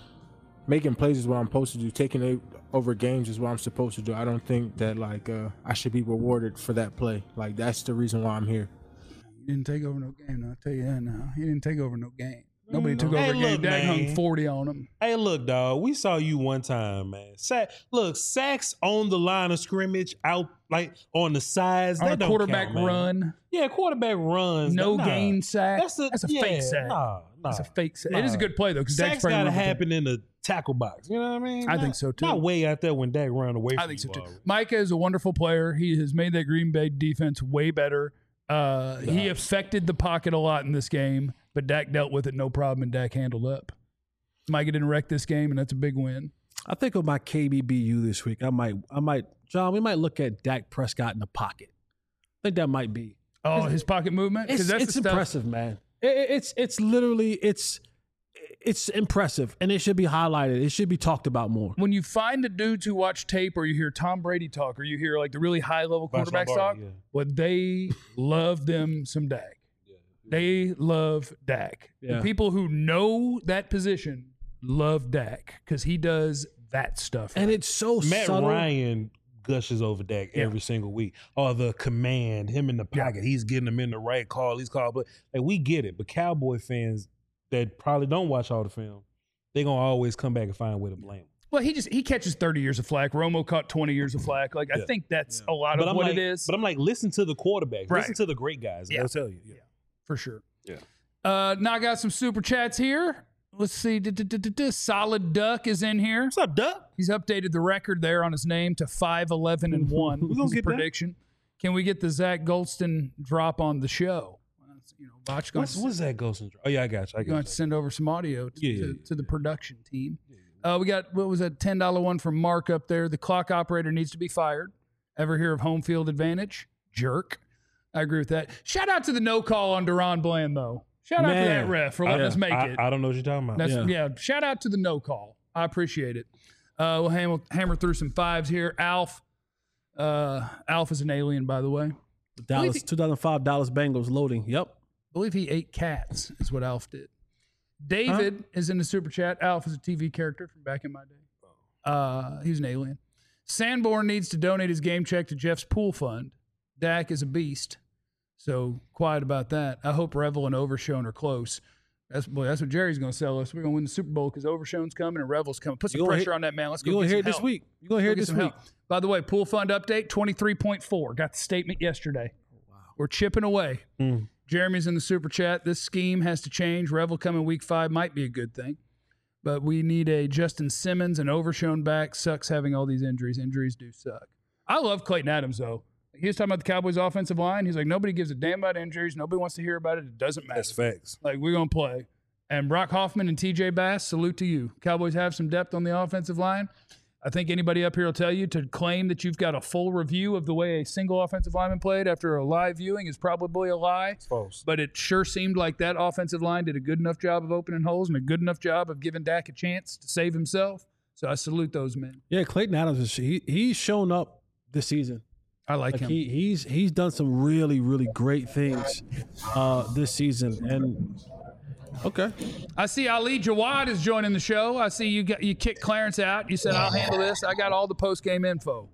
making plays is what I'm supposed to do. Taking it over games is what I'm supposed to do. I don't think that like uh, I should be rewarded for that play. Like that's the reason why I'm here. He didn't take over no game. No, I'll tell you that now. He didn't take over no game. Nobody took Hey, over a game. look, Dak hung man. forty on him. Hey, look, dog. We saw you one time, man. Sack, look, sacks on the line of scrimmage, out like on the sides. On that a don't quarterback count, man. run, Yeah, quarterback runs. no nah. gain sack. That's a, That's a yeah, fake sack. Nah, nah. That's a fake sack. Nah. It is a good play though, because Dak's Sacks probably got to run with happen in the tackle box. You know what I mean? I Not- think so, too. Not way out there when Dak run away. I from think so you too. already. Micah is a wonderful player. He has made that Green Bay defense way better. Uh, he affected the pocket a lot in this game, but Dak dealt with it no problem, and Dak handled up. Micah didn't wreck this game, and that's a big win. I think with my K B B U this week, I might, I might, John, we might look at Dak Prescott in the pocket. I think that might be. Oh, his pocket movement? It's, Because that's it's the stuff. impressive, man. It, it- it's it's literally it's it's impressive, and it should be highlighted. It should be talked about more. When you find the dudes who watch tape, or you hear Tom Brady talk, or you hear like the really high level Vice quarterbacks talk, Lombardi, yeah. well, they love them some Dak. They love Dak. Yeah. The people who know that position love Dak because he does that stuff. And right. it's so Matt subtle. Ryan gushes over Dak Yeah. every single week. Or the command, him in the pocket, he's getting them in the right call. He's called, but like we get it. But Cowboy fans that probably don't watch all the film, they gonna always come back and find a way to blame him. Well, he just he catches thirty years of flack. Romo caught twenty years of flack. Like I Yeah. think that's a lot But of I'm what like, it is But I'm like, listen to the quarterback. Right. Listen to the great guys. Yeah. They'll tell you. Yeah. for sure. Yeah. Uh, now I got some super chats here. Let's see. Du-du-du-du-du. Solid Duck is in here. What's up, Duck? He's updated the record there on his name to five eleven and one. We gonna His get that. prediction. Can we get the Zach Goldston drop on the show? You know, Botch going What's, what's that Ghost and Dr- Oh yeah, I got you. I You're going got to you. send over some audio to, Yeah, yeah, to, yeah. to the production team. Uh, we got, what was that, ten dollar one from Mark up there. The clock operator needs to be fired. Ever hear of home field advantage? Jerk. I agree with that. Shout out to the no call on Duron Bland, though. Shout out to Man. that ref for letting Yeah. us make I, it. I don't know what you're talking about. That's, yeah. Yeah. shout out to the no call. I appreciate it. Uh, we'll hammer, hammer through some fives here. Alf. Uh, Alf is an alien, by the way. Dallas, two thousand five Dallas Bengals loading. Yep. I believe he ate cats, is what Alf did. David is in the super chat. Alf is a T V character from back in my day. Uh, he's an alien. Sanborn needs to donate his game check to Jeff's pool fund. Dak is a beast. So quiet about that. I hope Revel and Overshone are close. That's boy, that's what Jerry's going to sell us. We're going to win the Super Bowl because Overshone's coming and Revel's coming. Put some You gonna pressure hear- on that man. Let's go You're going get to hear some it this help. week. You're going to hear it Go get this some week. help. By the way, pool fund update twenty-three point four. Got the statement yesterday. Wow. We're chipping away. Mm. Jeremy's in the super chat. This scheme has to change. Revel coming week five might be a good thing. But we need a Justin Simmons and Overshone back. Sucks having all these injuries. Injuries do suck. I love Clayton Adams, though. He was talking about the Cowboys' offensive line. He's like, nobody gives a damn about injuries. Nobody wants to hear about it. It doesn't matter. That's facts. Like, we're going to play. And Brock Hoffman and T J Bass, salute to you. Cowboys have some depth on the offensive line. I think anybody up here will tell you to claim that you've got a full review of the way a single offensive lineman played after a live viewing is probably a lie. It's false. But it sure seemed like that offensive line did a good enough job of opening holes and a good enough job of giving Dak a chance to save himself. So I salute those men. Yeah, Clayton Adams is he, he's shown up this season. I like, Like him. he he's he's done some really really great things uh, this season. And okay, I see Ali Jawad is joining the show. I see you got you kicked Clarence out. You said I'll handle this. I got all the post game info.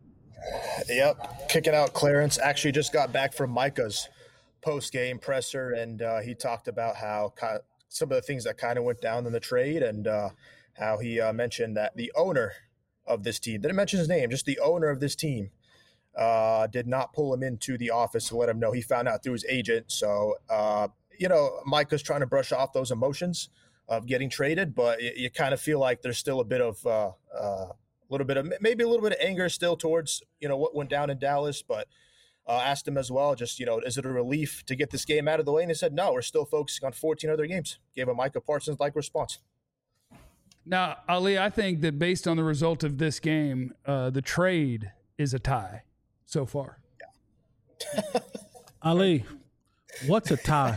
Yep, kicking out Clarence. Actually, just got back from Micah's post-game presser, and uh, he talked about how ki- some of the things that kind of went down in the trade, and uh, how he uh, mentioned that the owner of this team didn't mention his name, just the owner of this team uh, did not pull him into the office to let him know. He found out through his agent. So, uh, you know, Micah's trying to brush off those emotions of getting traded, but you, you kind of feel like there's still a bit of uh, uh, a little bit of maybe a little bit of anger still towards, you know, what went down in Dallas, but uh, asked him as well, just, you know, is it a relief to get this game out of the way? And he said, no, we're still focusing on fourteen other games. Gave a Micah Parsons-like response. Now, Ali, I think that based on the result of this game, uh, the trade is a tie so far. Ali, what's a tie?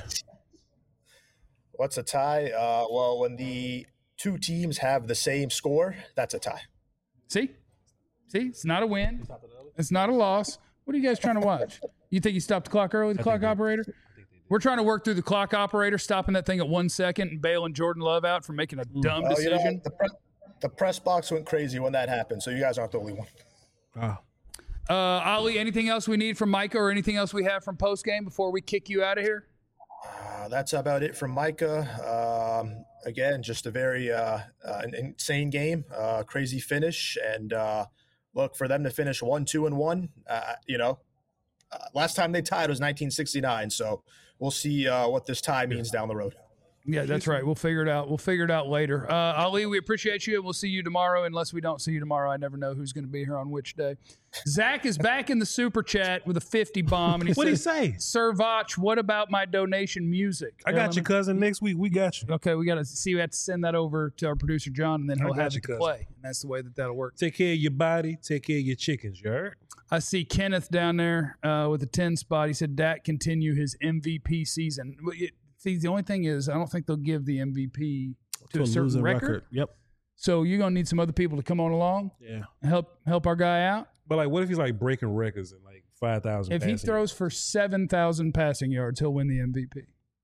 What's a tie? Uh, well, when the two teams have the same score, that's a tie. See? See? It's not a win. It's not a loss. What are you guys trying to watch? You think you stopped the clock early, the clock operator? We're trying to work through the clock operator, stopping that thing at one second and bailing Jordan Love out for making a dumb Oh, you know, decision. the, pre- the press box went crazy when that happened, so you guys aren't the only one. Oh. Uh, Ali, anything else we need from Micah or anything else we have from postgame before we kick you out of here? Uh, that's about it from Micah. Um, again, just a very uh, uh, an insane game, uh, crazy finish, and uh, look for them to finish one, two, and one. Uh, you know, uh, last time they tied was nineteen sixty-nine, so we'll see uh, what this tie means down the road. Yeah, that's right. We'll figure it out. We'll figure it out later. Uh, Ali, we appreciate you, and we'll see you tomorrow. Unless we don't see you tomorrow, I never know who's going to be here on which day. Zach is back in the super chat with a fifty bomb, and he What'd he says, say? Sir Vach, what about my donation music? I got you, cousin. Next week, we got you. Okay, we got to see. We have to send that over to our producer John, and then I he'll got have you, it to cousin. play. And that's the way that that'll work. Take care of your body. Take care of your chickens. You heard? I see Kenneth down there uh, with a ten spot. He said Dak continue his M V P season. Well, it- See, the only thing is, I don't think they'll give the M V P to, a certain losing record. Yep. So you're gonna need some other people to come on along, Yeah. and help help our guy out. But like, what if he's like breaking records and like five thousand? If he throws for seven thousand passing yards, he'll win the M V P.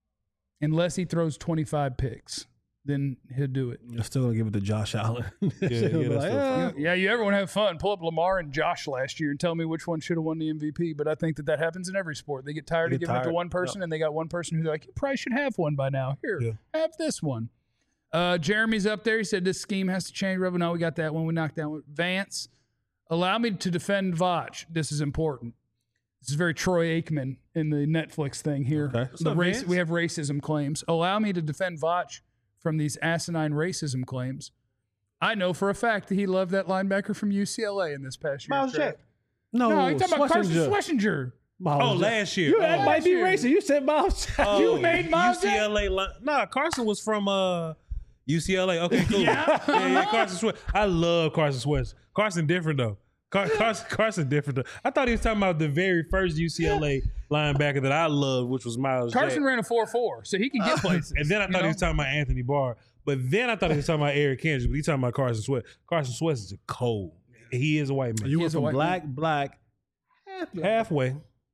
Unless he throws twenty-five picks, then he'll do it. You're still gonna give it to Josh Allen. yeah, He'll be that's like, still "Ah." fine. Yeah, you ever want to have fun? Pull up Lamar and Josh last year and tell me which one should have won the M V P. But I think that that happens in every sport. They get tired They of get giving it to tired. one person, and they got one person who's like, you probably should have one by now. Here, Yeah. have this one. Uh, Jeremy's up there. He said this scheme has to change. Rebel, no, we got that one. We knocked down Vance. Allow me to defend Vach. This is important. This is very Troy Aikman in the Netflix thing here. Okay. The up, race, Vance? we have racism claims. Allow me to defend Vach from these asinine racism claims. I know for a fact that he loved that linebacker from U C L A in this past year. Miles Jack. No, No, you're talking about Carson Schlesinger. Schlesinger. Miles Oh, Jack. last year. You oh. that might be year. racist. You said Miles. Jack. Oh, You made Miles U C L A. Li- nah, Carson was from uh, U C L A. Okay, cool. Yeah. yeah, yeah, Carson Sweat. I love Carson Sweat. Carson different though. Car- Carson, Carson different though. I thought he was talking about the very first U C L A linebacker that I loved, which was Miles Carson Jack. ran a four four, so he can get places. And then I you thought he know? was talking about Anthony Barr. But then I thought he was talking about Eric Kendricks, but he talking about Carson Sweat. Carson Sweat is a cold. He is a white man. You He went is a from white black, black, half black. Halfway.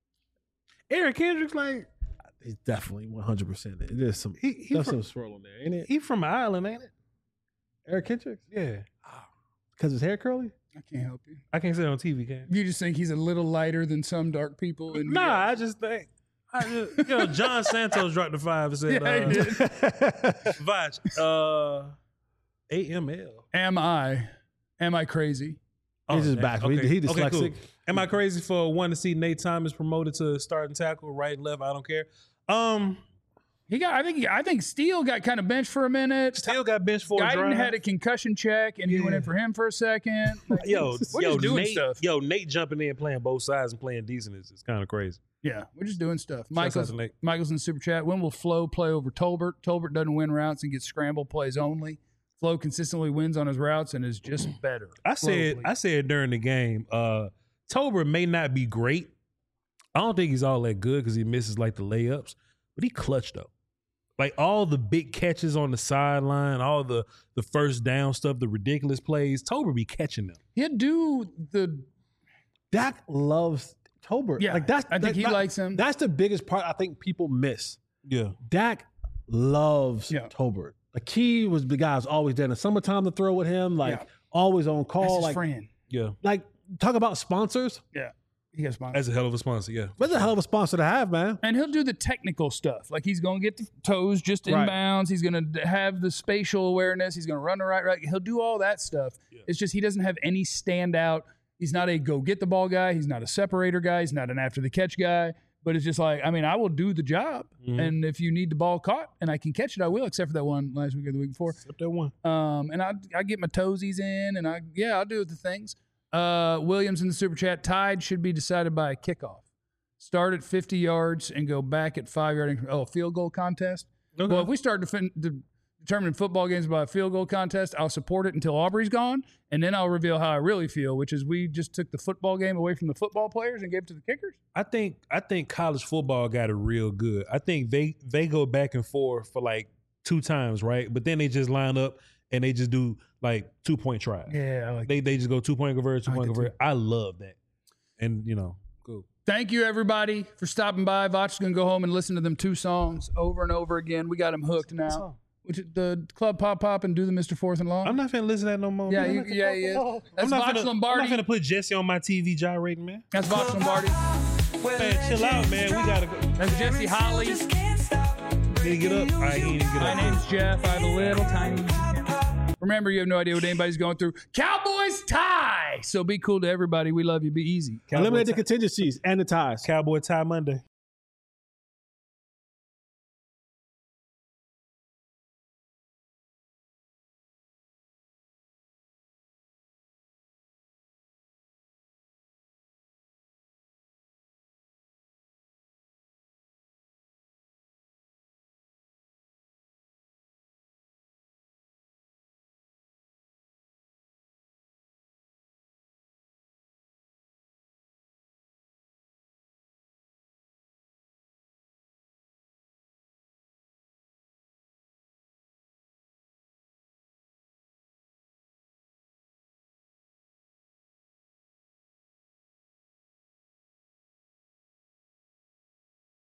Eric Kendricks, like, He's definitely one hundred percent. There's some, he he there's from, some swirl in there, ain't it? he from Ireland, ain't it? Eric Kendricks? Yeah. Because his hair curly? I can't help you. I can't say it on T V, can You just think he's a little lighter than some dark people. And Nah, I just think. I just, you know, John Santos dropped the five and said, Yeah, uh, he did. Vach, uh, A M L. Am I? Am I crazy? He's just damn. back. He- he dyslexic. Am I crazy for one to see Nate Thomas promoted to starting tackle, right and left? I don't care. Um, He got. I think. He, I think Steele got kind of benched for a minute. still got benched for a Guyton drive. had a concussion check, and he went in for him for a second. Like, Yo, we're yo, just doing Nate, stuff. yo, Nate jumping in playing both sides and playing decent is, is kind of crazy. Yeah, we're just doing stuff. Shouts out Michael's, to Nate. Michael's in the super chat. When will Flo play over Tolbert? Tolbert doesn't win routes and gets scramble plays only. Flo consistently wins on his routes and is just better. I said, Flo, I please. said during the game, uh, Tolbert may not be great. I don't think he's all that good because he misses like the layups, but he clutched though. Like all the big catches on the sideline, all the the first down stuff, the ridiculous plays, Tolbert be catching them. He'd do the. Dak loves Tolbert. Yeah, like that's, I think that- he that- likes him. That's the biggest part I think people miss. Yeah. Dak loves Yeah. Tolbert. Like he was the guy who's always there in the summertime to throw with him, like Yeah. always on That's call. his Like, friend. Yeah. like talk about sponsors. Yeah, he gets sponsored. That's a hell of a sponsor, yeah. That's a hell of a sponsor to have, man. And he'll do the technical stuff. Like he's going to get the toes just Right. inbounds. He's going to have the spatial awareness. He's going to run the right, right. He'll do all that stuff. It's just he doesn't have any standout. He's not a go get the ball guy. He's not a separator guy. He's not an after the catch guy. But it's just like, I mean, I will do the job. Mhm. And if you need the ball caught and I can catch it, I will, except for that one last week or the week before. Except that one. Um, and I I get my toesies in, and I yeah, I'll do the things. Uh, Williams in the super chat. Tide should be decided by a kickoff. Start at fifty yards and go back at five yard. Oh, field goal contest. Okay. Well, if we start to, fin- to determining football games by a field goal contest. I'll support it until Aubrey's gone, and then I'll reveal how I really feel, which is we just took the football game away from the football players and gave it to the kickers. I think I think college football got it real good. I think they they go back and forth for like two times, right? But then they just line up and they just do like two point tries. Yeah, I like They they just go two point convert, two I point like convert. I love that. And you know, cool. Thank you, everybody, for stopping by. Voch is going to go home and listen to them two songs over and over again. We got them hooked now. Which is the Club Pop Pop and Do the Mister Fourth and Long. I'm not finna listen to that no more. Yeah, man. you, yeah, he is. I'm That's not, Voch finna, Lombardi. I'm not finna put Jesse on my T V gyrating, man. That's Voch Lombardi. Man, chill out, man. We gotta go. That's Jesse Holly. Did he get up? All right, he didn't get My up. name's Jeff. I have a little tiny. Remember, you have no idea what anybody's going through. Cowboys tie. So be cool to everybody. We love you. Be easy. Cowboy Eliminate the tie- contingencies and the ties. Cowboy tie Monday.